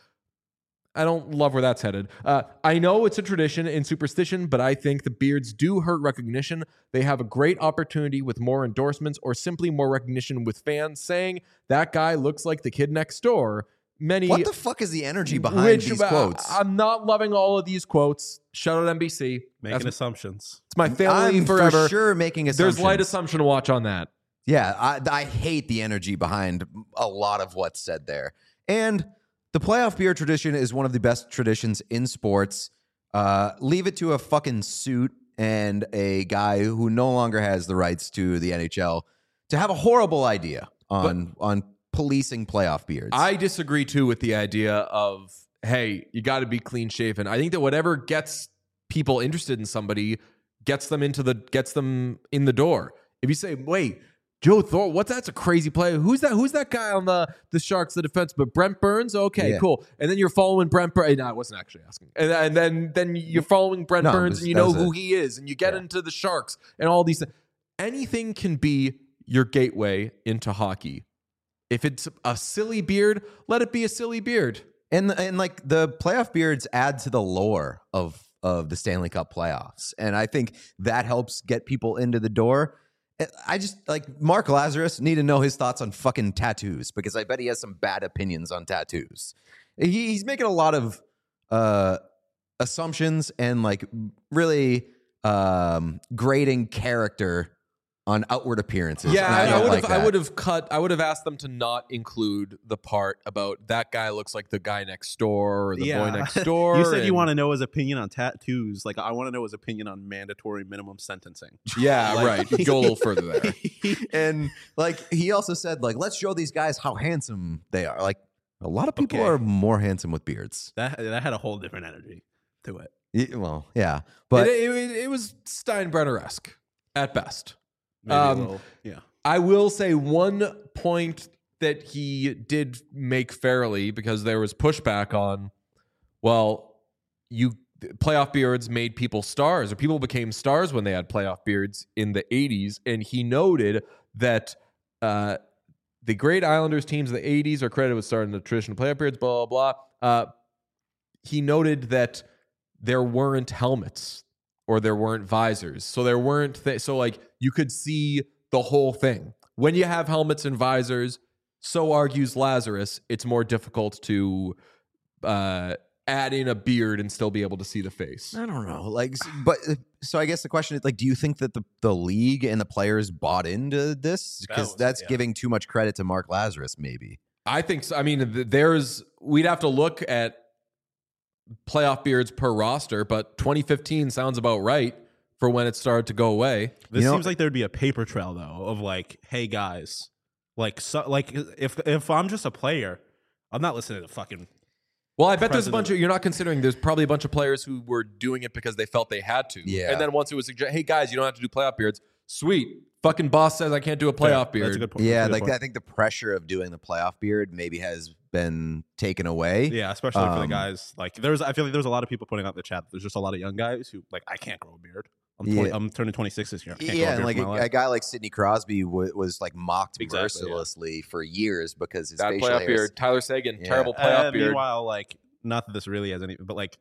I don't love where that's headed. Uh, I know it's a tradition and superstition, but I think the beards do hurt recognition. They have a great opportunity with more endorsements or simply more recognition with fans saying, that guy looks like the kid next door. Many, what the fuck is the energy behind which, these uh, quotes? I'm not loving all of these quotes. Shout out N B C. Making That's, assumptions. it's my family I'm forever. for sure making assumptions. There's light assumption to watch on that. Yeah, I, I hate the energy behind a lot of what's said there. And the playoff beard tradition is one of the best traditions in sports. Uh, leave it to a fucking suit and a guy who no longer has the rights to the N H L to have a horrible idea on but, on policing playoff beards. I disagree too with the idea of, hey, you got to be clean shaven. I think that whatever gets people interested in somebody gets them into the gets them in the door. If you say, wait, Joe Thornton, what's that's a crazy play? Who's that? Who's that guy on the the Sharks, the defense? But Brent Burns, okay, yeah. cool. And then you're following Brent Burns. No, I wasn't actually asking. And, and then then you're following Brent no, Burns, was, and you know who a, he is, and you get yeah. into the Sharks and all these things. Anything can be your gateway into hockey. If it's a silly beard, let it be a silly beard. And and like the playoff beards add to the lore of of the Stanley Cup playoffs, and I think that helps get people into the door. I just like Mark Lazarus need to know his thoughts on fucking tattoos because I bet he has some bad opinions on tattoos. He, he's making a lot of uh, assumptions and like really um, grading character on outward appearances. Yeah, I, I, don't would like have. I that. would have cut. I would have asked them to not include the part about that guy looks like the guy next door or the Yeah. boy next door. You said you and- want to know his opinion on tattoos. Like, I want to know his opinion on mandatory minimum sentencing. Yeah, Like- right. Go a little further there. And like he also said, like let's show these guys how handsome they are. Like a lot of people Okay. are more handsome with beards. That that had a whole different energy to it. Y- Well, yeah, but it, it, it was Steinbrenner-esque at best. Maybe Um, a little, yeah. I will say one point that he did make fairly because there was pushback on, well, you playoff beards made people stars or people became stars when they had playoff beards in the eighties. And he noted that uh, the great Islanders teams in the eighties are credited with starting the tradition of playoff beards, blah, blah, blah. Uh, he noted that there weren't helmets or there weren't visors. So there weren't th- so like you could see the whole thing. When you have helmets and visors, so argues Lazarus, it's more difficult to uh, add in a beard and still be able to see the face. I don't know. Like, s- but uh, so I guess the question is like, do you think that the, the league and the players bought into this? That Because was- that's yeah. giving too much credit to Mark Lazarus, maybe. I think so. I mean, th- there's we'd have to look at playoff beards per roster, but twenty fifteen sounds about right for when it started to go away. This You know- seems like there'd be a paper trail though of like, hey guys, like so, like if if I'm just a player, I'm not listening to fucking. Well, I bet there's a President. bunch of, you're not considering, there's probably a bunch of players who were doing it because they felt they had to. Yeah. And then once it was suggested, hey guys, you don't have to do playoff beards. Sweet. Fucking boss says I can't do a playoff beard. That's a good point. Yeah, That's a like good I point. think the pressure of doing the playoff beard maybe has been taken away. Yeah, especially for the Um, guys. Like there's, I feel like there's a lot of people putting out in the chat. There's just a lot of young guys who like I can't grow a beard. I'm twenty, Yeah. I'm turning twenty-six this year. I can't Yeah, grow a and beard like for my a, life. a guy like Sidney Crosby w- was like mocked Exactly, yeah. mercilessly for years because his That facial playoff hairs. beard. Tyler Sagan, Yeah. terrible playoff Uh, beard. Meanwhile, like not that this really has any, but like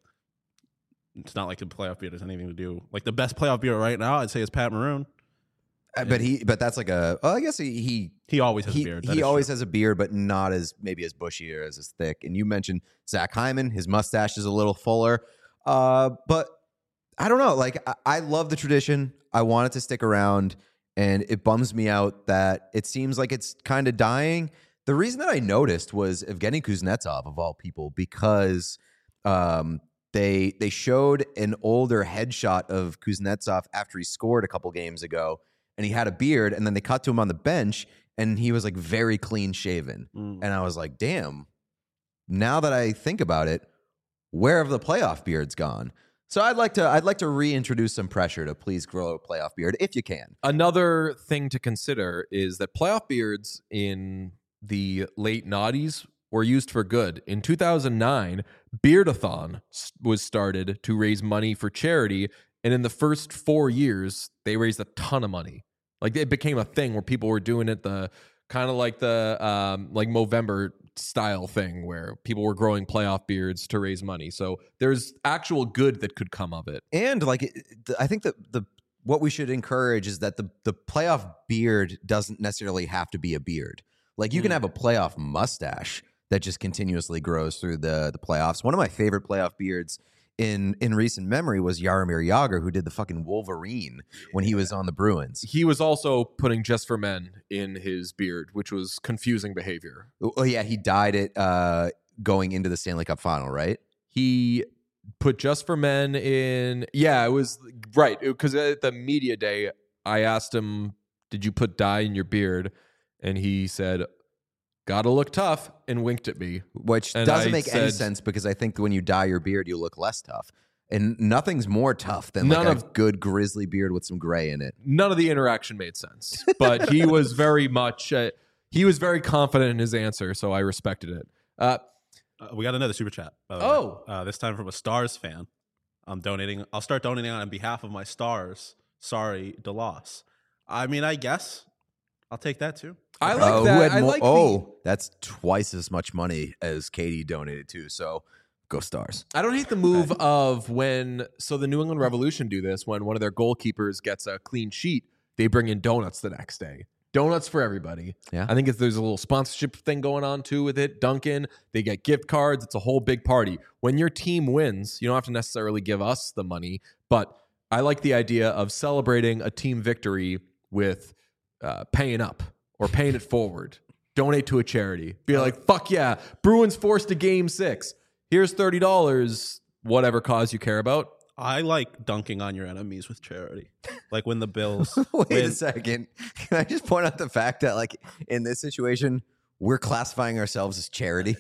it's not like the playoff beard has anything to do. Like the best playoff beard right now, I'd say is Pat Maroon. Uh, But he, but that's like a. Oh, I guess he he He always has he, a beard. That he is always true. has a beard, but not as maybe as bushy or as, as thick. And you mentioned Zach Hyman, his mustache is a little fuller. Uh, but I don't know. Like I, I love the tradition. I want it to stick around, and it bums me out that it seems like it's kind of dying. The reason that I noticed was Evgeny Kuznetsov of all people, because um, they they showed an older headshot of Kuznetsov after he scored a couple games ago, and he had a beard, and then they cut to him on the bench, and he was like very clean shaven, Mm. and I was like, damn. Now that I think about it, where have the playoff beards gone? So I'd like to I'd like to reintroduce some pressure to please grow a playoff beard if you can. Another thing to consider is that playoff beards in the late noughties were used for good. In two thousand nine, Beardathon s- was started to raise money for charity, and in the first four years, they raised a ton of money. Like it became a thing where people were doing it the kind of like the um, like Movember style thing where people were growing playoff beards to raise money. So there's actual good that could come of it. And like it- the- I think that the what we should encourage is that the the playoff beard doesn't necessarily have to be a beard. Like you can Mm. have a playoff mustache that just continuously grows through the the playoffs. One of my favorite playoff beards in in recent memory was Jaromir Jagr, who did the fucking Wolverine when he was on the Bruins. He was also putting Just for Men in his beard, which was confusing behavior. Oh yeah, he dyed it uh, going into the Stanley Cup final, right? He put Just for Men in. Yeah, it was right. Because at the media day, I asked him, did you put dye in your beard? And he said, gotta look tough, and winked at me. Which And doesn't I make any said- sense because I think when you dye your beard, you look less tough. And nothing's more tough than like None a of- good grizzly beard with some gray in it. None of the interaction made sense, but he was very much, uh, he was very confident in his answer, so I respected it. Uh, Uh, we got another super chat. By the way. Oh. uh, this time from a Stars fan. I'm donating. I'll start donating on behalf of my Stars. Sorry, DeLoss. I mean, I guess I'll take that too. I like Oh, who that. had I mo- like the, oh, that's twice as much money as Katie donated to. So go Stars. I don't hate the move of when, so the New England Revolution do this when one of their goalkeepers gets a clean sheet, they bring in donuts the next day. Donuts for everybody. Yeah. I think if there's a little sponsorship thing going on too with it. Dunkin', they get gift cards. It's a whole big party. When your team wins, you don't have to necessarily give us the money, but I like the idea of celebrating a team victory with uh, paying up or paying it forward. Donate to a charity. Be like, fuck yeah, Bruins forced to game six. Here's thirty dollars, whatever cause you care about. I like dunking on your enemies with charity. Like when the Bills. Wait win- a second. Can I just point out the fact that like in this situation, we're classifying ourselves as charity?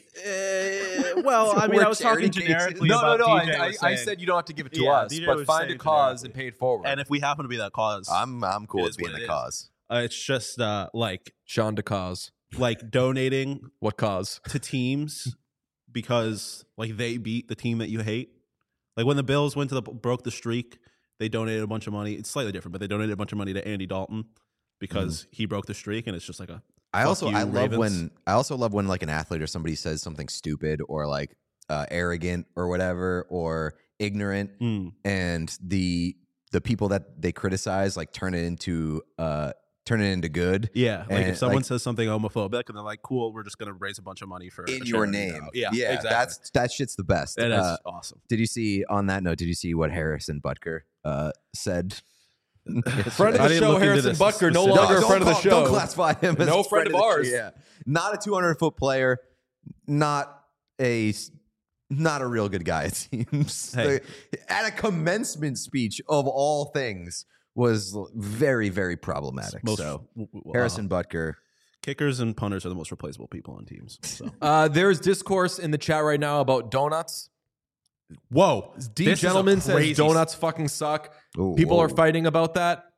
Eh, well, So I mean, we're I was talking charity cases? generically No, no, about no. D J I, I, was I saying- said you don't have to give it to Yeah, us, D J but was find a saying cause and generically. pay it forward. And if we happen to be that cause, I'm I'm cool It with is being what the it is. cause. uh, it's just uh, like Sean DeCause. like donating What cause? to teams because like they beat the team that you hate. Like when the Bills went to the broke the streak, they donated a bunch of money. It's slightly different, but they donated a bunch of money to Andy Dalton because he broke the streak, and it's just like a. I Fuck also you, I love Ravens. when I also love when like an athlete or somebody says something stupid or like uh, arrogant or whatever or ignorant, Mm. and the the people that they criticize like turn it into uh turn it into good. Yeah, like And, if someone like- says something homophobic and they're like, "Cool, we're just gonna raise a bunch of money for in a your charity name. now." Yeah, yeah, exactly. that's that shit's the best. That is Uh, awesome. did you see on that note? Did you see what Harrison Butker uh, said? Friend of I the didn't show, look into Harrison this Butker, no specific- longer a don't friend of the call- show. Don't classify him as No a friend of the- ours. Yeah, not a two hundred foot player, not a not a real good guy. It seems Hey. The- at a commencement speech of all things was very very problematic. Most so w- w- Harrison uh, Butker. kickers and punters are the most replaceable people on teams. So Uh, there's discourse in the chat right now about donuts. whoa, D this is a Gentleman says crazy- donuts fucking suck. Ooh, People are whoa. fighting about that.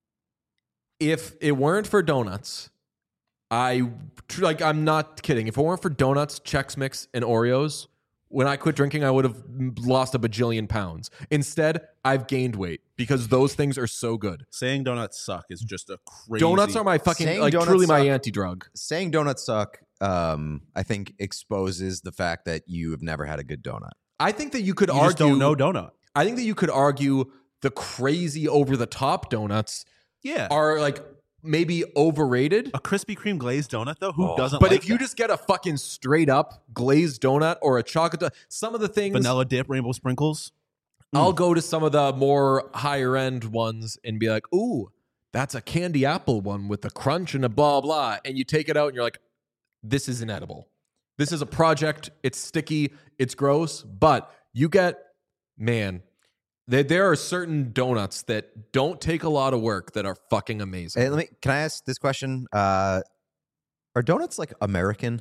If it weren't for donuts, I tr- like I'm not kidding. If it weren't for donuts, Chex Mix, and Oreos, when I quit drinking, I would have lost a bajillion pounds. Instead, I've gained weight because those things are so good. Saying donuts suck is just a crazy. Donuts are my fucking Saying like donuts truly my suck- anti-drug. Saying donuts suck. Um, I think exposes the fact that you have never had a good donut. I think that you could You argue. just don't know donut. I think that you could argue the crazy over the top donuts Yeah, are like maybe overrated. a Krispy Kreme glazed donut though. Who Oh. doesn't? But like if you that? just get a fucking straight up glazed donut or a chocolate donut, some of the things vanilla dip, rainbow sprinkles. I'll go to some of the more higher end ones and be like, ooh, that's a candy apple one with a crunch and a blah blah. And you take it out and you're like, this isn't edible. This is a project. It's sticky. It's gross. But you get, man, there, there are certain donuts that don't take a lot of work that are fucking amazing. Hey, let me. Can I ask this question? Uh, are donuts like American?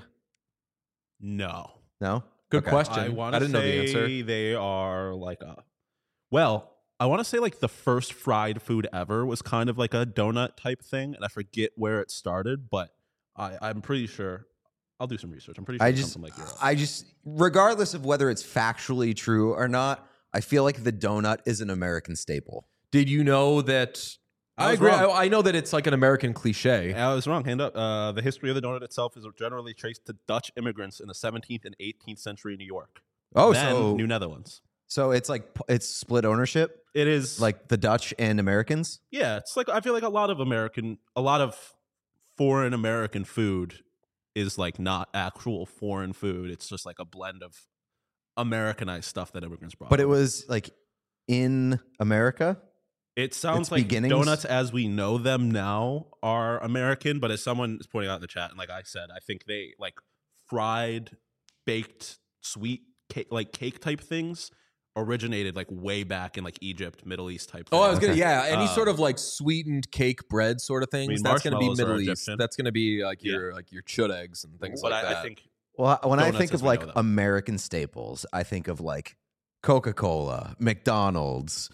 No, No. Good Okay. question. I I, want to didn't know the say answer. they are like a. Well, I want to say like the first fried food ever was kind of like a donut type thing, and I forget where it started, but I, I'm pretty sure. I'll do some research. I'm pretty sure I it's just, something like Europe. I just, regardless of whether it's factually true or not, I feel like the donut is an American staple. Did you know that? I I, was agree. wrong. I, I know that it's like an American cliche. I was wrong. Hand up. Uh, the history of the donut itself is generally traced to Dutch immigrants in the seventeenth and eighteenth century New York. Oh, then so New Netherlands. so it's like p- it's split ownership, It is like the Dutch and Americans. yeah. It's like I feel like a lot of American, a lot of foreign American food is like not actual foreign food. It's just like a blend of Americanized stuff that immigrants brought. But it over. was like in America. It sounds its like beginnings? donuts as we know them now are American, but as someone is pointing out in the chat, and like I said, I think they like fried, baked, sweet cake, like cake type things originated like way back in like Egypt, Middle East type. Oh, I was things. gonna, yeah, any Uh, sort of like sweetened cake bread sort of things. mean, That's gonna be marshmallows are Middle East. Egyptian. That's gonna be like Yeah. your like your chud eggs and things But like I, that. I think Well, when I Donuts think as of we like know them. American staples, I think of like Coca-Cola, McDonald's,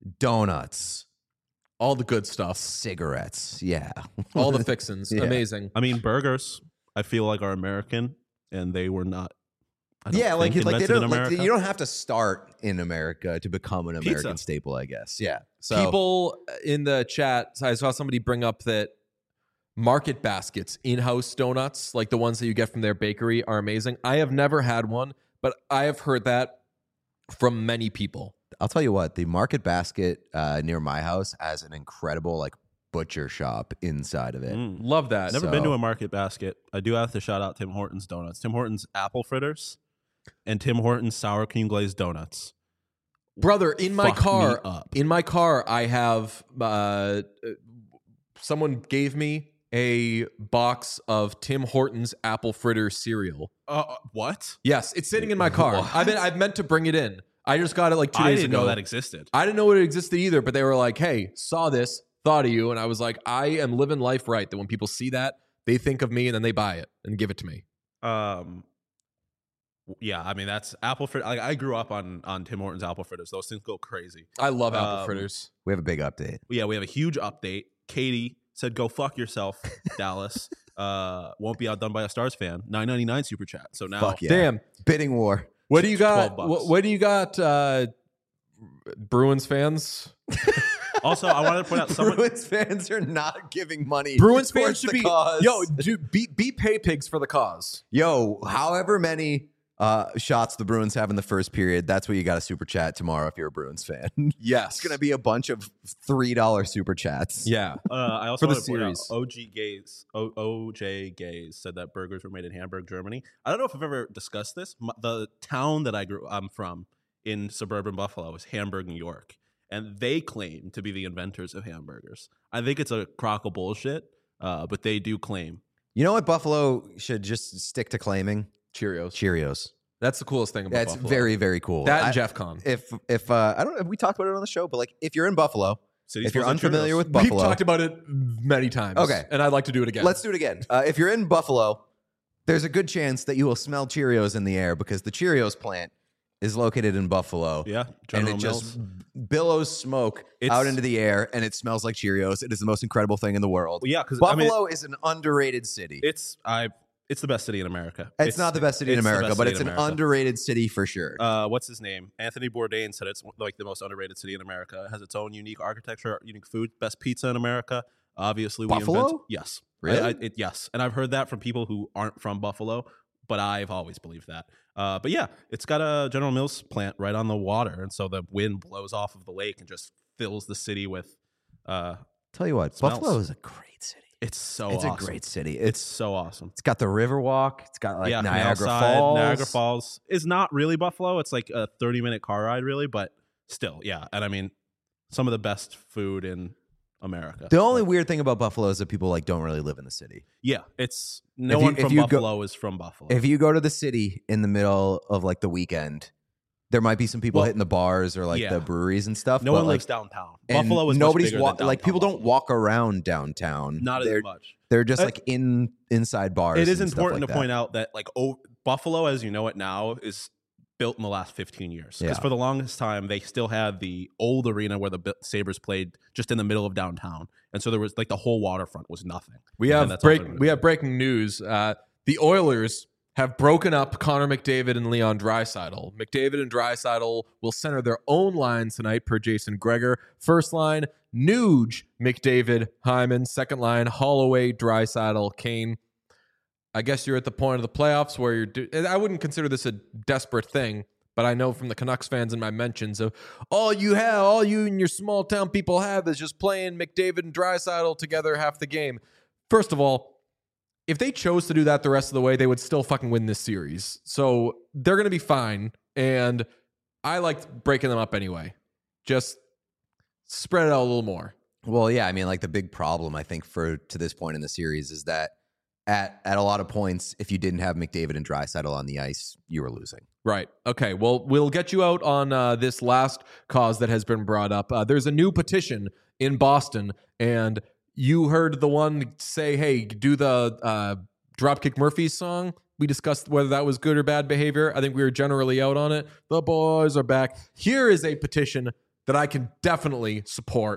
donuts, all the good stuff, cigarettes. Yeah. all the fixins, Yeah. amazing. I mean burgers. I feel like are American, and they were not. I don't Yeah, like think like they invented in don't like, America. you don't have to start in America to become an American Pizza. staple, I guess. Yeah. So People in the chat, I saw somebody bring up that Market Baskets in-house donuts, like the ones that you get from their bakery, are amazing. I have never had one, but I have heard that from many people. I'll tell you what, the Market Basket uh, near my house has an incredible like butcher shop inside of it. Mm. Love that. Never been So- to a Market Basket. I do have to shout out Tim Hortons donuts, Tim Hortons apple fritters, and Tim Hortons sour cream glazed donuts. Brother, in my Fuck me car, up. in my car, I have uh, someone gave me a box of Tim Hortons apple fritter cereal. Uh, what? Yes, it's sitting in my car. What? I've been I've meant to bring it in. I just got it like two I days didn't ago. know that existed. I didn't know it existed either, but they were like, "Hey, saw this, thought of you," and I was like, "I am living life right. That when people see that, they think of me and then they buy it and give it to me." Um, yeah, I mean that's apple fritter. Like, I grew up on on Tim Hortons apple fritters. Those things go crazy. I love apple Um, fritters. We have a big update. Yeah, we have a huge update. Katie said, "Go fuck yourself, Dallas." Uh, won't be outdone by a Stars fan. nine ninety-nine super chat. So now, Fuck yeah. Damn. Bidding war. What do you got? twelve bucks. What, what do you got, uh, Bruins fans? also I wanted to point out someone. Bruins fans are not giving money. Bruins towards fans should the be cause. yo, do be be pay pigs for the cause. Yo, however many uh, shots the Bruins have in the first period. That's what you got to super chat tomorrow if you're a Bruins fan. Yes. It's going to be a bunch of three dollar super chats. Yeah. Uh, I also For the want to point out series. O G Gaze, o- OJ Gaze said that burgers were made in Hamburg, Germany. I don't know if I've ever discussed this. M- the town that I grew, I'm from in suburban Buffalo is Hamburg, New York, and they claim to be the inventors of hamburgers. I think it's a crock of bullshit, uh, but they do claim. You know what Buffalo should just stick to claiming? Cheerios. Cheerios. That's the coolest thing about That's Buffalo. very, very cool. That and I- Jeff Con. If if uh, I don't know if we talked about it on the show, but like if you're in Buffalo, City if you're Smells Like unfamiliar Cheerios. with Buffalo, We've talked about it many times. Okay. And I'd like to do it again. let's do it again. Uh, if you're in Buffalo, there's a good chance that you will smell Cheerios in the air because the Cheerios plant is located in Buffalo. Yeah, and General it Mills. just billows smoke It's- out into the air, and it smells like Cheerios. It is the most incredible thing in the world. Well, yeah, because I mean, Buffalo is an underrated city. it's I. It's the best city in America. It's, not the best city in it's the America, best but city it's in an America. underrated city for sure. Uh, what's his name? Anthony Bourdain said it's like the most underrated city in America. It has its own unique architecture, unique food, best pizza in America. Obviously, we Buffalo? invented. Yes, Really? I, I, it, yes, and I've heard that from people who aren't from Buffalo, but I've always believed that. Uh, but yeah, it's got a General Mills plant right on the water, and so the wind blows off of the lake and just fills the city with. Uh, Tell you what, smells. Buffalo is a great city. it's so it's awesome. a great city. It's It's so awesome. it's got the Riverwalk. It's got like yeah, Niagara Canal Side, Falls. Niagara Falls is not really Buffalo. It's like a thirty minute car ride, really, but still, yeah. And I mean, some of the best food in America. The only weird thing about Buffalo is that people like don't really live in the city. Yeah, it's no If you- one if from you go- Buffalo is from Buffalo. If you go to the city in the middle of like the weekend, there might be some people Well, hitting the bars or like yeah. the breweries and stuff. no but, one like, lives downtown. and Buffalo is nobody's much bigger wa- than like downtown people don't Buffalo. walk around downtown. Not they're, as much. They're just Uh, like in inside bars. It is and stuff important like to that. point out that like oh, Buffalo, as you know it now, is built in the last fifteen years. Because Yeah. for the longest time, they still had the old arena where the Bi- Sabres played just in the middle of downtown, and so there was like the whole waterfront was nothing. We And have that's all break. they're gonna We do. have breaking news. Uh, the Oilers have broken up Connor McDavid and Leon Draisaitl. McDavid and Draisaitl will center their own lines tonight, per Jason Gregor. First line: Nuge, McDavid, Hyman. Second line: Holloway, Draisaitl, Kane. I guess you're at the point of the playoffs where you're. Do- I wouldn't consider this a desperate thing, but I know from the Canucks fans in my mentions of all you have, all you and your small town people have is just playing McDavid and Draisaitl together half the game. First of all, if they chose to do that the rest of the way, they would still fucking win this series. So they're going to be fine. And I like breaking them up anyway. Just spread it out a little more. Well, yeah, I mean, like the big problem I think for to this point in the series is that at at a lot of points, if you didn't have McDavid and Draisaitl on the ice, you were losing. Right. Okay. Well, we'll get you out on uh, this last cause that has been brought up. Uh, there's a new petition in Boston, and you heard the one say, hey, do the uh, Dropkick Murphys song. We discussed whether that was good or bad behavior. I think we were generally out on it. The boys are back. Here is a petition that I can definitely support.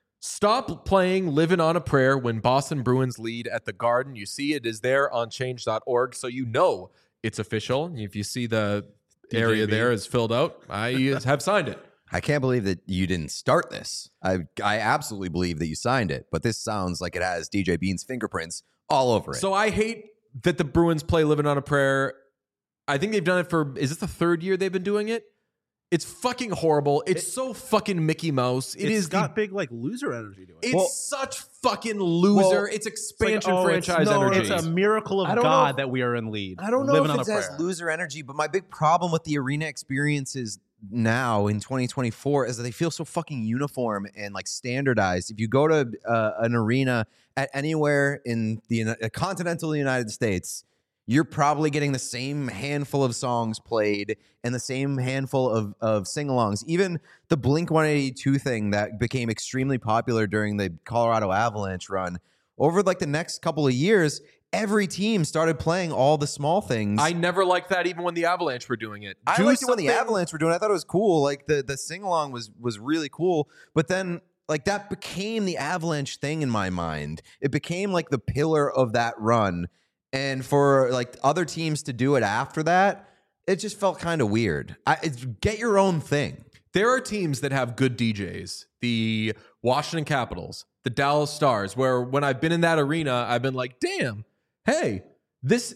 Stop playing Living on a Prayer when Boston Bruins lead at the Garden. You see it is there on change dot org, so you know it's official. If you see the D J area B. there is filled out, I have signed it. I can't believe that you didn't start this. I I absolutely believe that you signed it, but this sounds like it has D J Bean's fingerprints all over it. So I hate that the Bruins play Living on a Prayer. I think they've done it for, is this the third year they've been doing it? It's fucking horrible. It's It- so fucking Mickey Mouse. It it's is got the, big like loser energy to it. it's Well- such fucking loser. Well, it's It's like, expansion oh, it's- franchise no, energy. It's a miracle of I don't know God if- that we are in lead. I don't know living if on it a has prayer. loser energy, but my big problem with the arena experiences now in twenty twenty-four is that they feel so fucking uniform and like standardized. If you go to uh, an arena at anywhere in the Uni- uh, continental United States, you're probably getting the same handful of songs played and the same handful of, of sing-alongs. Even the Blink one eighty-two thing that became extremely popular during the Colorado Avalanche run, over like the next couple of years, every team started playing all the small things. I never liked that even when the Avalanche were doing it. I Do liked it when the something- Avalanche were doing it. I thought it was cool. Like the the sing along was was really cool. But then like that became the Avalanche thing in my mind. It became like the pillar of that run. And for like other teams to do it after that, it just felt kind of weird. I, it's, get your own thing. There are teams that have good D Js. The Washington Capitals, the Dallas Stars, where when I've been in that arena, I've been like, damn, hey, this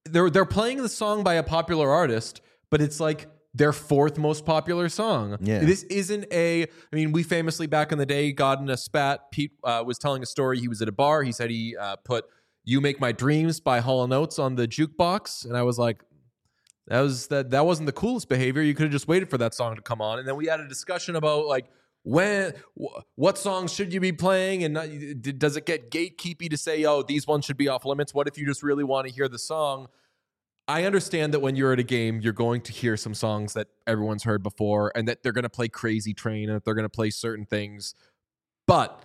they're they're playing the song by a popular artist, but it's like their fourth most popular song. Yeah. This isn't a, I mean, we famously back in the day got in a spat. Pete uh, was telling a story. He was at a bar. He said he uh, put You Make My Dreams by Hall and Oates on the jukebox. And I was like, that was that that wasn't the coolest behavior. You could have just waited for that song to come on. And then we had a discussion about like, when, wh- what songs should you be playing? And not, does it get gatekeepy to say, oh, these ones should be off limits? What if you just really want to hear the song? I understand that when you're at a game, you're going to hear some songs that everyone's heard before and that they're going to play Crazy Train and that they're going to play certain things. But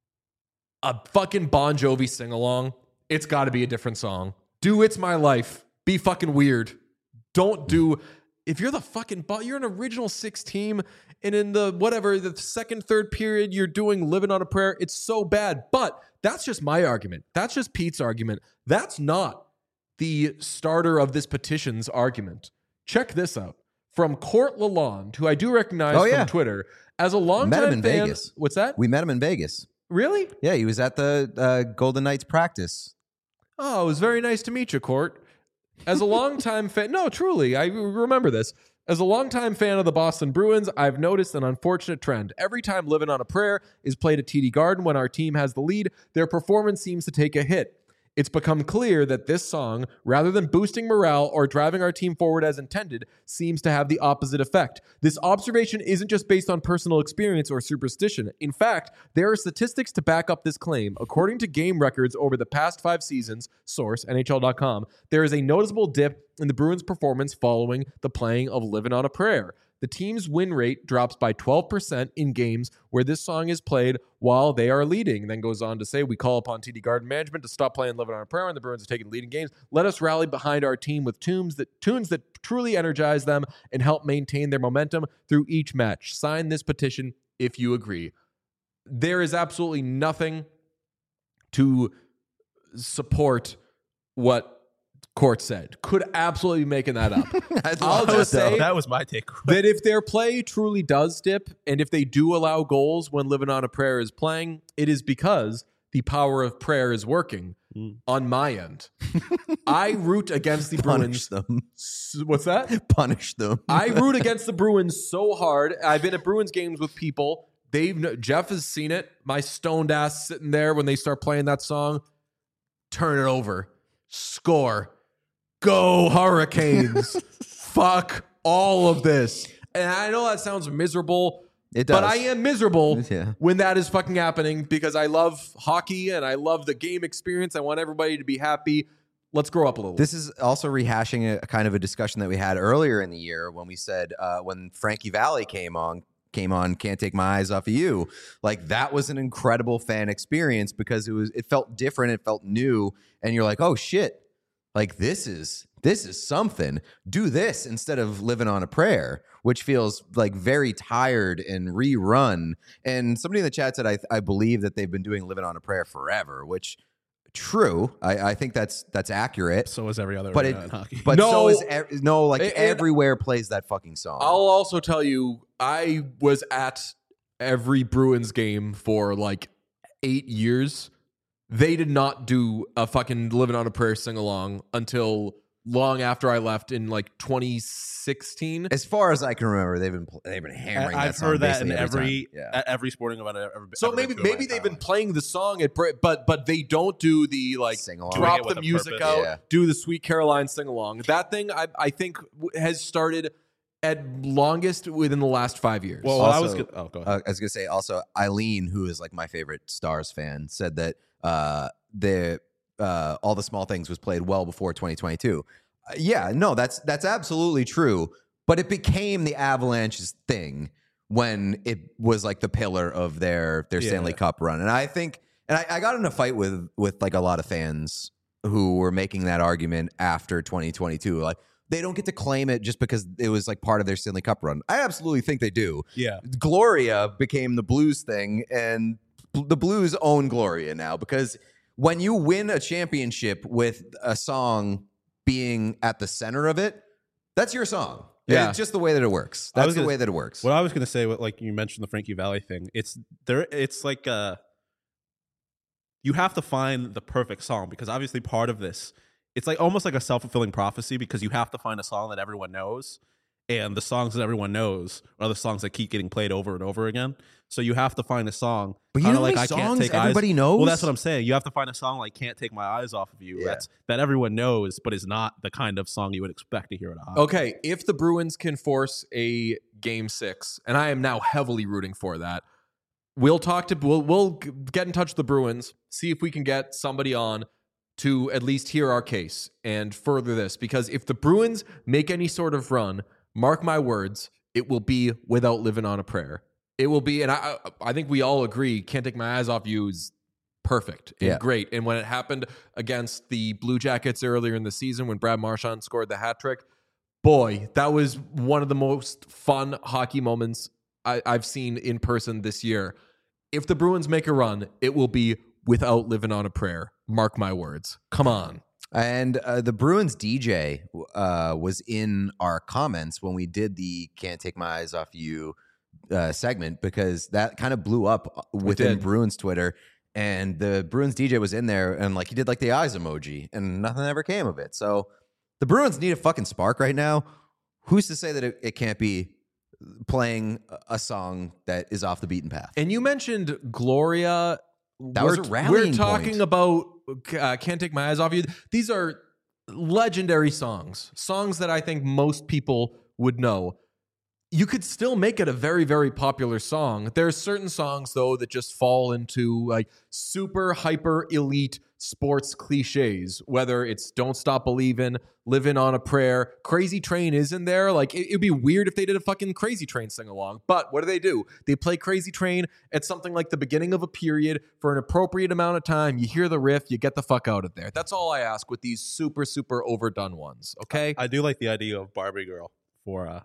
a fucking Bon Jovi sing-along, it's got to be a different song. Do It's My Life. Be fucking weird. Don't do... If you're the fucking... You're an original six team and in the whatever, the second, third period, you're doing Living on a Prayer. It's so bad. But that's just my argument. That's just Pete's argument. That's not the starter of this petition's argument. Check this out. From Court Lalonde, who I do recognize Oh, from yeah. Twitter, as a longtime Met him in fan. Vegas. What's that? We met him in Vegas. Really? Yeah, he was at the uh, Golden Knights practice. Oh, it was very nice to meet you, Court. As a longtime fan, no, truly, I remember this. As a longtime fan of the Boston Bruins, I've noticed an unfortunate trend. Every time Living on a Prayer is played at T D Garden when our team has the lead, their performance seems to take a hit. It's become clear that this song, rather than boosting morale or driving our team forward as intended, seems to have the opposite effect. This observation isn't just based on personal experience or superstition. In fact, there are statistics to back up this claim. According to game records over the past five seasons, source N H L dot com, there is a noticeable dip in the Bruins' performance following the playing of Living on a Prayer. The team's win rate drops by twelve percent in games where this song is played while they are leading. Then goes on to say, we call upon T D Garden management to stop playing Living on a Prayer when the Bruins are taking leading games. Let us rally behind our team with tunes that tunes that truly energize them and help maintain their momentum through each match. Sign this petition if you agree. There is absolutely nothing to support what Court said. Could absolutely be making that up. I'll just say that was my take. that if their play truly does dip, and if they do allow goals when Living on a Prayer is playing, it is because the power of prayer is working mm. on my end. I root against the Punish Bruins. them. What's that? Punish them. I root against the Bruins so hard. I've been at Bruins games with people. They've Jeff has seen it. My stoned ass sitting there when they start playing that song. Turn it over. Score. Go Hurricanes. Fuck all of this. And I know that sounds miserable. It does. But I am miserable Yeah. when that is fucking happening because I love hockey and I love the game experience. I want everybody to be happy. Let's grow up a little. This is also rehashing a, a kind of a discussion that we had earlier in the year when we said uh, when Frankie Valli came on, came on, Can't Take My Eyes Off of You. Like that was an incredible fan experience because it was it felt different, it felt new, and you're like, oh shit. Like this is this is something. Do this instead of Living on a Prayer, which feels like very tired and rerun. And somebody in the chat said, I, I believe that they've been doing Living on a Prayer forever, which true. I, I think that's that's accurate. So is every other But arena it, in hockey. but No. so is e- no, like And- everywhere plays that fucking song. I'll also tell you, I was at every Bruins game for like eight years. They did not do a fucking Living on a Prayer sing-along until long after I left in like twenty sixteen. As far as I can remember, they've been pl- they've been hammering that I've song heard that in basically every time. Yeah. at every sporting event I've ever been. So ever maybe been to in my maybe they've entire been life. playing the song at Bra- but but they don't do the like Sing-along. Doing drop it with the a music purpose. out, Yeah. do the Sweet Caroline sing along. That thing I I think w- has started at longest within the last five years. Well, what I was Also, gonna, oh, go ahead. Uh, I was gonna say also Eileen, who is like my favorite Stars fan, said that uh, the uh, All the Small Things was played well before twenty twenty-two. Uh, yeah, no, that's that's absolutely true. But it became the Avalanche's thing when it was like the pillar of their their Yeah. Stanley Cup run, and I think, and I, I got in a fight with with like a lot of fans who were making that argument after twenty twenty-two, like. They don't get to claim it just because it was like part of their Stanley Cup run. I absolutely think they do. yeah. Gloria became the Blues thing, and bl- the Blues own Gloria now because when you win a championship with a song being at the center of it, that's your song. Yeah. It's just the way that it works. I That's was the gonna- way that it works. What I was gonna say, what like you mentioned the Frankie Valli thing. It's there. It's like uh, you have to find the perfect song because obviously part of this it's like almost like a self-fulfilling prophecy because you have to find a song that everyone knows, and the songs that everyone knows are the songs that keep getting played over and over again. So you have to find a song. But you kinda know like like I can't songs take everybody eyes. knows? Well, that's what I'm saying. You have to find a song like "Can't Take My Eyes Off of You." Yeah. That's that everyone knows, but is not the kind of song you would expect to hear at a hockey. Okay, if the Bruins can force a game six, and I am now heavily rooting for that, we'll talk to we'll we'll get in touch with the Bruins, see if we can get somebody on to at least hear our case and further this. Because if the Bruins make any sort of run, mark my words, it will be without living on a prayer. It will be, and I I think we all agree, Can't Take My Eyes Off You is perfect and Yeah. great. And when it happened against the Blue Jackets earlier in the season when Brad Marchand scored the hat trick, boy, that was one of the most fun hockey moments I, I've seen in person this year. If the Bruins make a run, it will be without living on a prayer. Mark my words. Come on. And uh, the Bruins D J uh, was in our comments when we did the Can't Take My Eyes Off You uh, segment because that kind of blew up within did. Bruins Twitter. And the Bruins D J was in there and like he did like the eyes emoji and nothing ever came of it. So the Bruins need a fucking spark right now. Who's to say that it, it can't be playing a song that is off the beaten path? And you mentioned Gloria. That we're, was a rallying We're talking point. about uh, Can't Take My Eyes Off You. These are legendary songs, songs that I think most people would know. You could still make it a very, very popular song. There are certain songs, though, that just fall into like super hyper elite sports cliches, whether it's Don't Stop Believin', Living on a Prayer. Crazy Train is in there. Like, it, it'd be weird if they did a fucking Crazy Train sing along. But what do they do? They play Crazy Train at something like the beginning of a period for an appropriate amount of time. You hear the riff, you get the fuck out of there. That's all I ask with these super, super overdone ones, okay? I do like the idea of Barbie Girl for uh,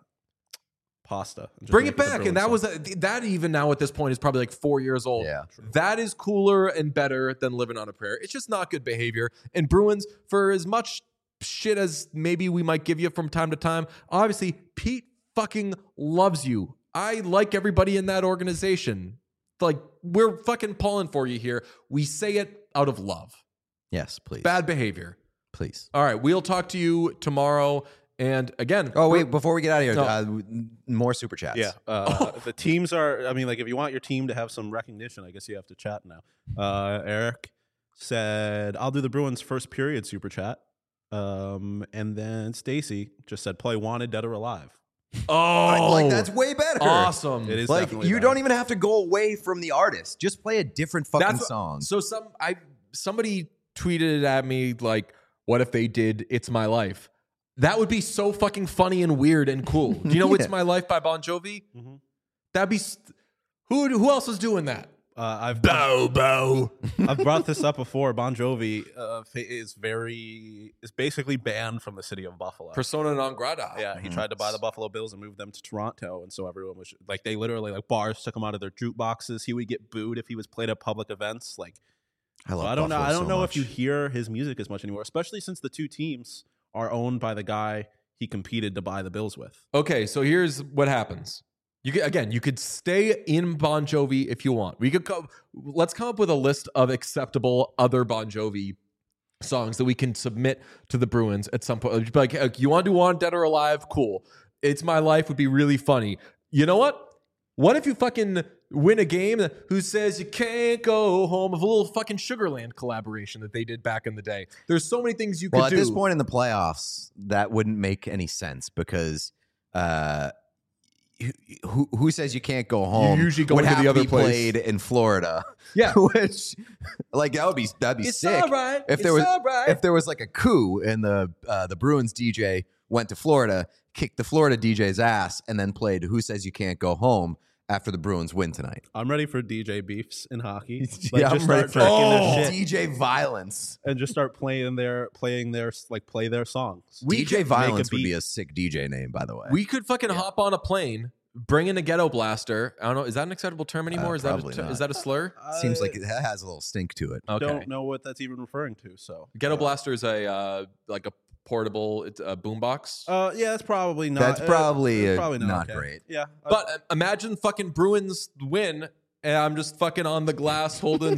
pasta. Just Bring make it the back. Bruins And that song. was a, that even now at this point is probably like four years old. Yeah. That is cooler and better than Living on a Prayer. It's just not good behavior. And Bruins, for as much shit as maybe we might give you from time to time, obviously Pete fucking loves you. I like everybody in that organization. Like, we're fucking pulling for you here. We say it out of love. Yes, please. Bad behavior. Please. All right, we'll talk to you tomorrow. And again, Oh, wait, before we get out of here, No. uh, more super chats. Yeah, uh, the teams are. I mean, like if you want your team to have some recognition, I guess you have to chat now. Uh, Eric said, "I'll do the Bruins first period super chat," um, and then Stacy just said, "Play Wanted, Dead or Alive." oh, Like, that's way better. awesome. It is Like, definitely you better. don't even have to go away from the artist. Just play a different fucking That's what- song. So some I somebody tweeted at me like, "What if they did It's My Life?" That would be so fucking funny and weird and cool. Do you know Yeah. It's My Life by Bon Jovi? Mhm. That'd be st- who who else is doing that? Uh, I've Bobo. I've brought this up before. Bon Jovi uh, fa- is very is basically banned from the city of Buffalo. Persona non grata. Yeah, he tried to buy the Buffalo Bills and move them to Toronto, and so everyone was like, they literally like bars took him out of their jukeboxes. He would get booed if he was played at public events. Like, I love so I don't know. Buffalo I don't so know much. if you hear his music as much anymore, especially since the two teams are owned by the guy he competed to buy the Bills with. Okay, so here's what happens. You could, again, you could stay in Bon Jovi if you want. We could co- let's come up with a list of acceptable other Bon Jovi songs that we can submit to the Bruins at some point. Like, uh, you want to do Wanted, Dead or Alive? Cool. It's My Life would be really funny. You know what? What if you fucking win a game? Who says you can't go home? Of a little fucking Sugarland collaboration that they did back in the day. There's so many things you Well, could at do. this point in the playoffs, that wouldn't make any sense because uh, who who says you can't go home? usually go would into have the to other be place. played in Florida. Yeah. which like that would be that'd be It's sick. all right. If there It's was all right. if there was like a coup and the uh, the Bruins D J went to Florida, kicked the Florida D J's ass, and then played "Who Says You Can't Go Home" after the Bruins win tonight. I'm ready for D J beefs in hockey. Yeah, I'm just ready start for- tracking Oh. their shit D J violence. and just start playing their playing their like play their songs. We D J could make a violence would beat. be a sick D J name, by the way. We could fucking hop on a plane, bring in a ghetto blaster. I don't know. Is that an acceptable term anymore? Uh, is that probably a, ter- not. is that a slur? Seems I like it has a little stink to it. Okay. don't know what that's even referring to. So Ghetto blaster is a uh, like a portable it's a boombox. Uh, yeah, that's probably not. That's uh, probably, it's uh, probably not okay. great. Yeah, uh, but uh, imagine fucking Bruins win, and I'm just fucking on the glass holding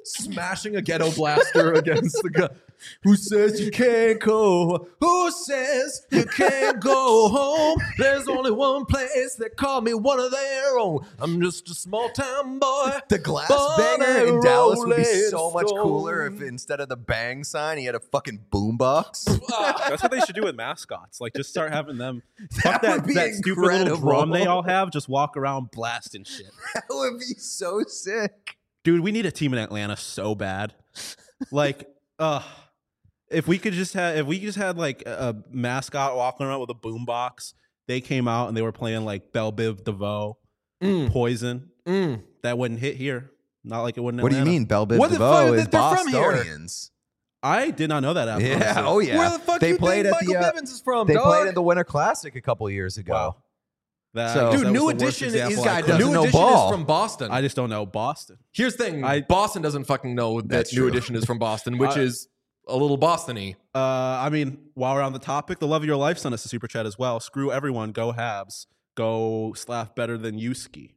smashing a ghetto blaster against the guy. Who says you can't go? Who says you can't go home? There's only one place that call me one of their own. I'm just a small town boy. The glass born banger a in Dallas would be rolling so much stone. cooler if instead of the bang sign, he had a fucking boombox. That's what they should do with mascots. Like, just start having them. Fuck That that, would be that stupid little incredible. drum they all have. Just walk around blasting shit. That would be so sick. Dude, we need a team in Atlanta so bad. Like, uh, if we could just have, if we just had like a, a mascot walking around with a boombox, they came out and they were playing like Belle Biv DeVoe, Mm. Poison. Mm. That wouldn't hit here. Not like it wouldn't. in What do you Atlanta. mean, Belle Biv What the DeVoe fuck? is They're from here. Bostonians? I did not know that. After Yeah, honestly. oh yeah. Where the fuck they you played think at Michael the uh, Bivins is from, they dog? played at the Winter Classic a couple years ago. Wow. That, So- I guess Dude, that New was the worst Edition example is This guy I could- doesn't New know Edition ball. is from Boston. I just don't know Boston. Here's the thing: I- Boston doesn't fucking know that That's New true. Edition is from Boston, which I- is a little Boston-y. Uh, I mean, while we're on the topic, the love of your life sent us a super chat as well. Screw everyone. Go Habs. Go Slav better than Yuski.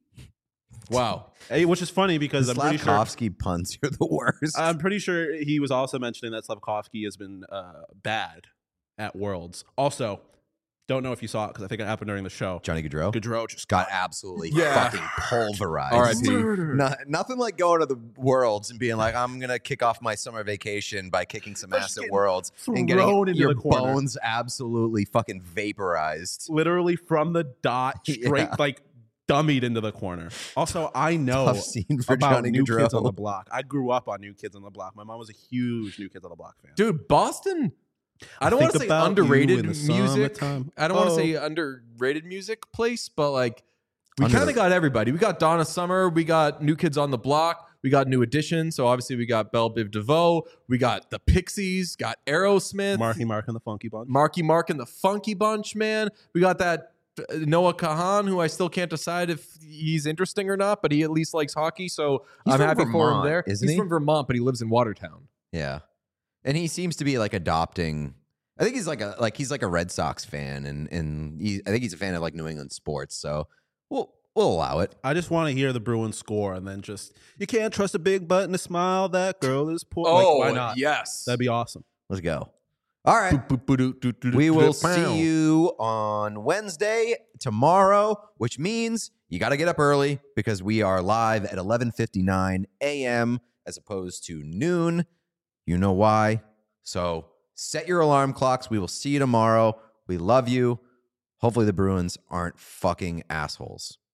Wow. Hey, which is funny because I'm pretty sure Slavkovsky punts, you're the worst. I'm pretty sure he was also mentioning that Slavkovsky has been uh, bad at Worlds. Also, don't know if you saw it because I think it happened during the show. Johnny Gaudreau Gaudreau just got absolutely Yeah. fucking pulverized. R I P. No, nothing like going to the Worlds and being like, I'm gonna kick off my summer vacation by kicking some Just ass at getting Worlds and thrown getting into your the corner. bones absolutely fucking vaporized. literally from the dot straight, Yeah. like dummied into the corner. Also, I know Tough scene for about Johnny New Kids on the Gaudreau. Block. I grew up on New Kids on the Block. My mom was a huge New Kids on the Block fan. Dude, Boston, I don't want to Think say about you underrated in the music. summertime. I don't want to Oh. say underrated music place, but like we Under- kind of got everybody. We got Donna Summer, we got New Kids on the Block, we got New Edition. So obviously we got Belle Biv DeVoe, we got the Pixies, got Aerosmith, Marky Mark and the Funky Bunch. Marky Mark and the Funky Bunch, man. We got that uh, Noah Kahan, who I still can't decide if he's interesting or not, but he at least likes hockey, so He's I'm from happy for him Vermont, there. isn't he's he? from Vermont, but he lives in Watertown. Yeah, and he seems to be like adopting. I think he's like a like he's like a Red Sox fan, and and he, I think he's a fan of like New England sports. So we'll we'll allow it. I just want to hear the Bruins score and then just, you can't trust a big butt and a smile. That girl is poor. Oh, like, why not? yes. That'd be awesome. Let's go. All right. We will see you on Wednesday tomorrow, which means you got to get up early because we are live at eleven fifty-nine a.m. as opposed to noon. You know why? So set your alarm clocks. We will see you tomorrow. We love you. Hopefully the Bruins aren't fucking assholes.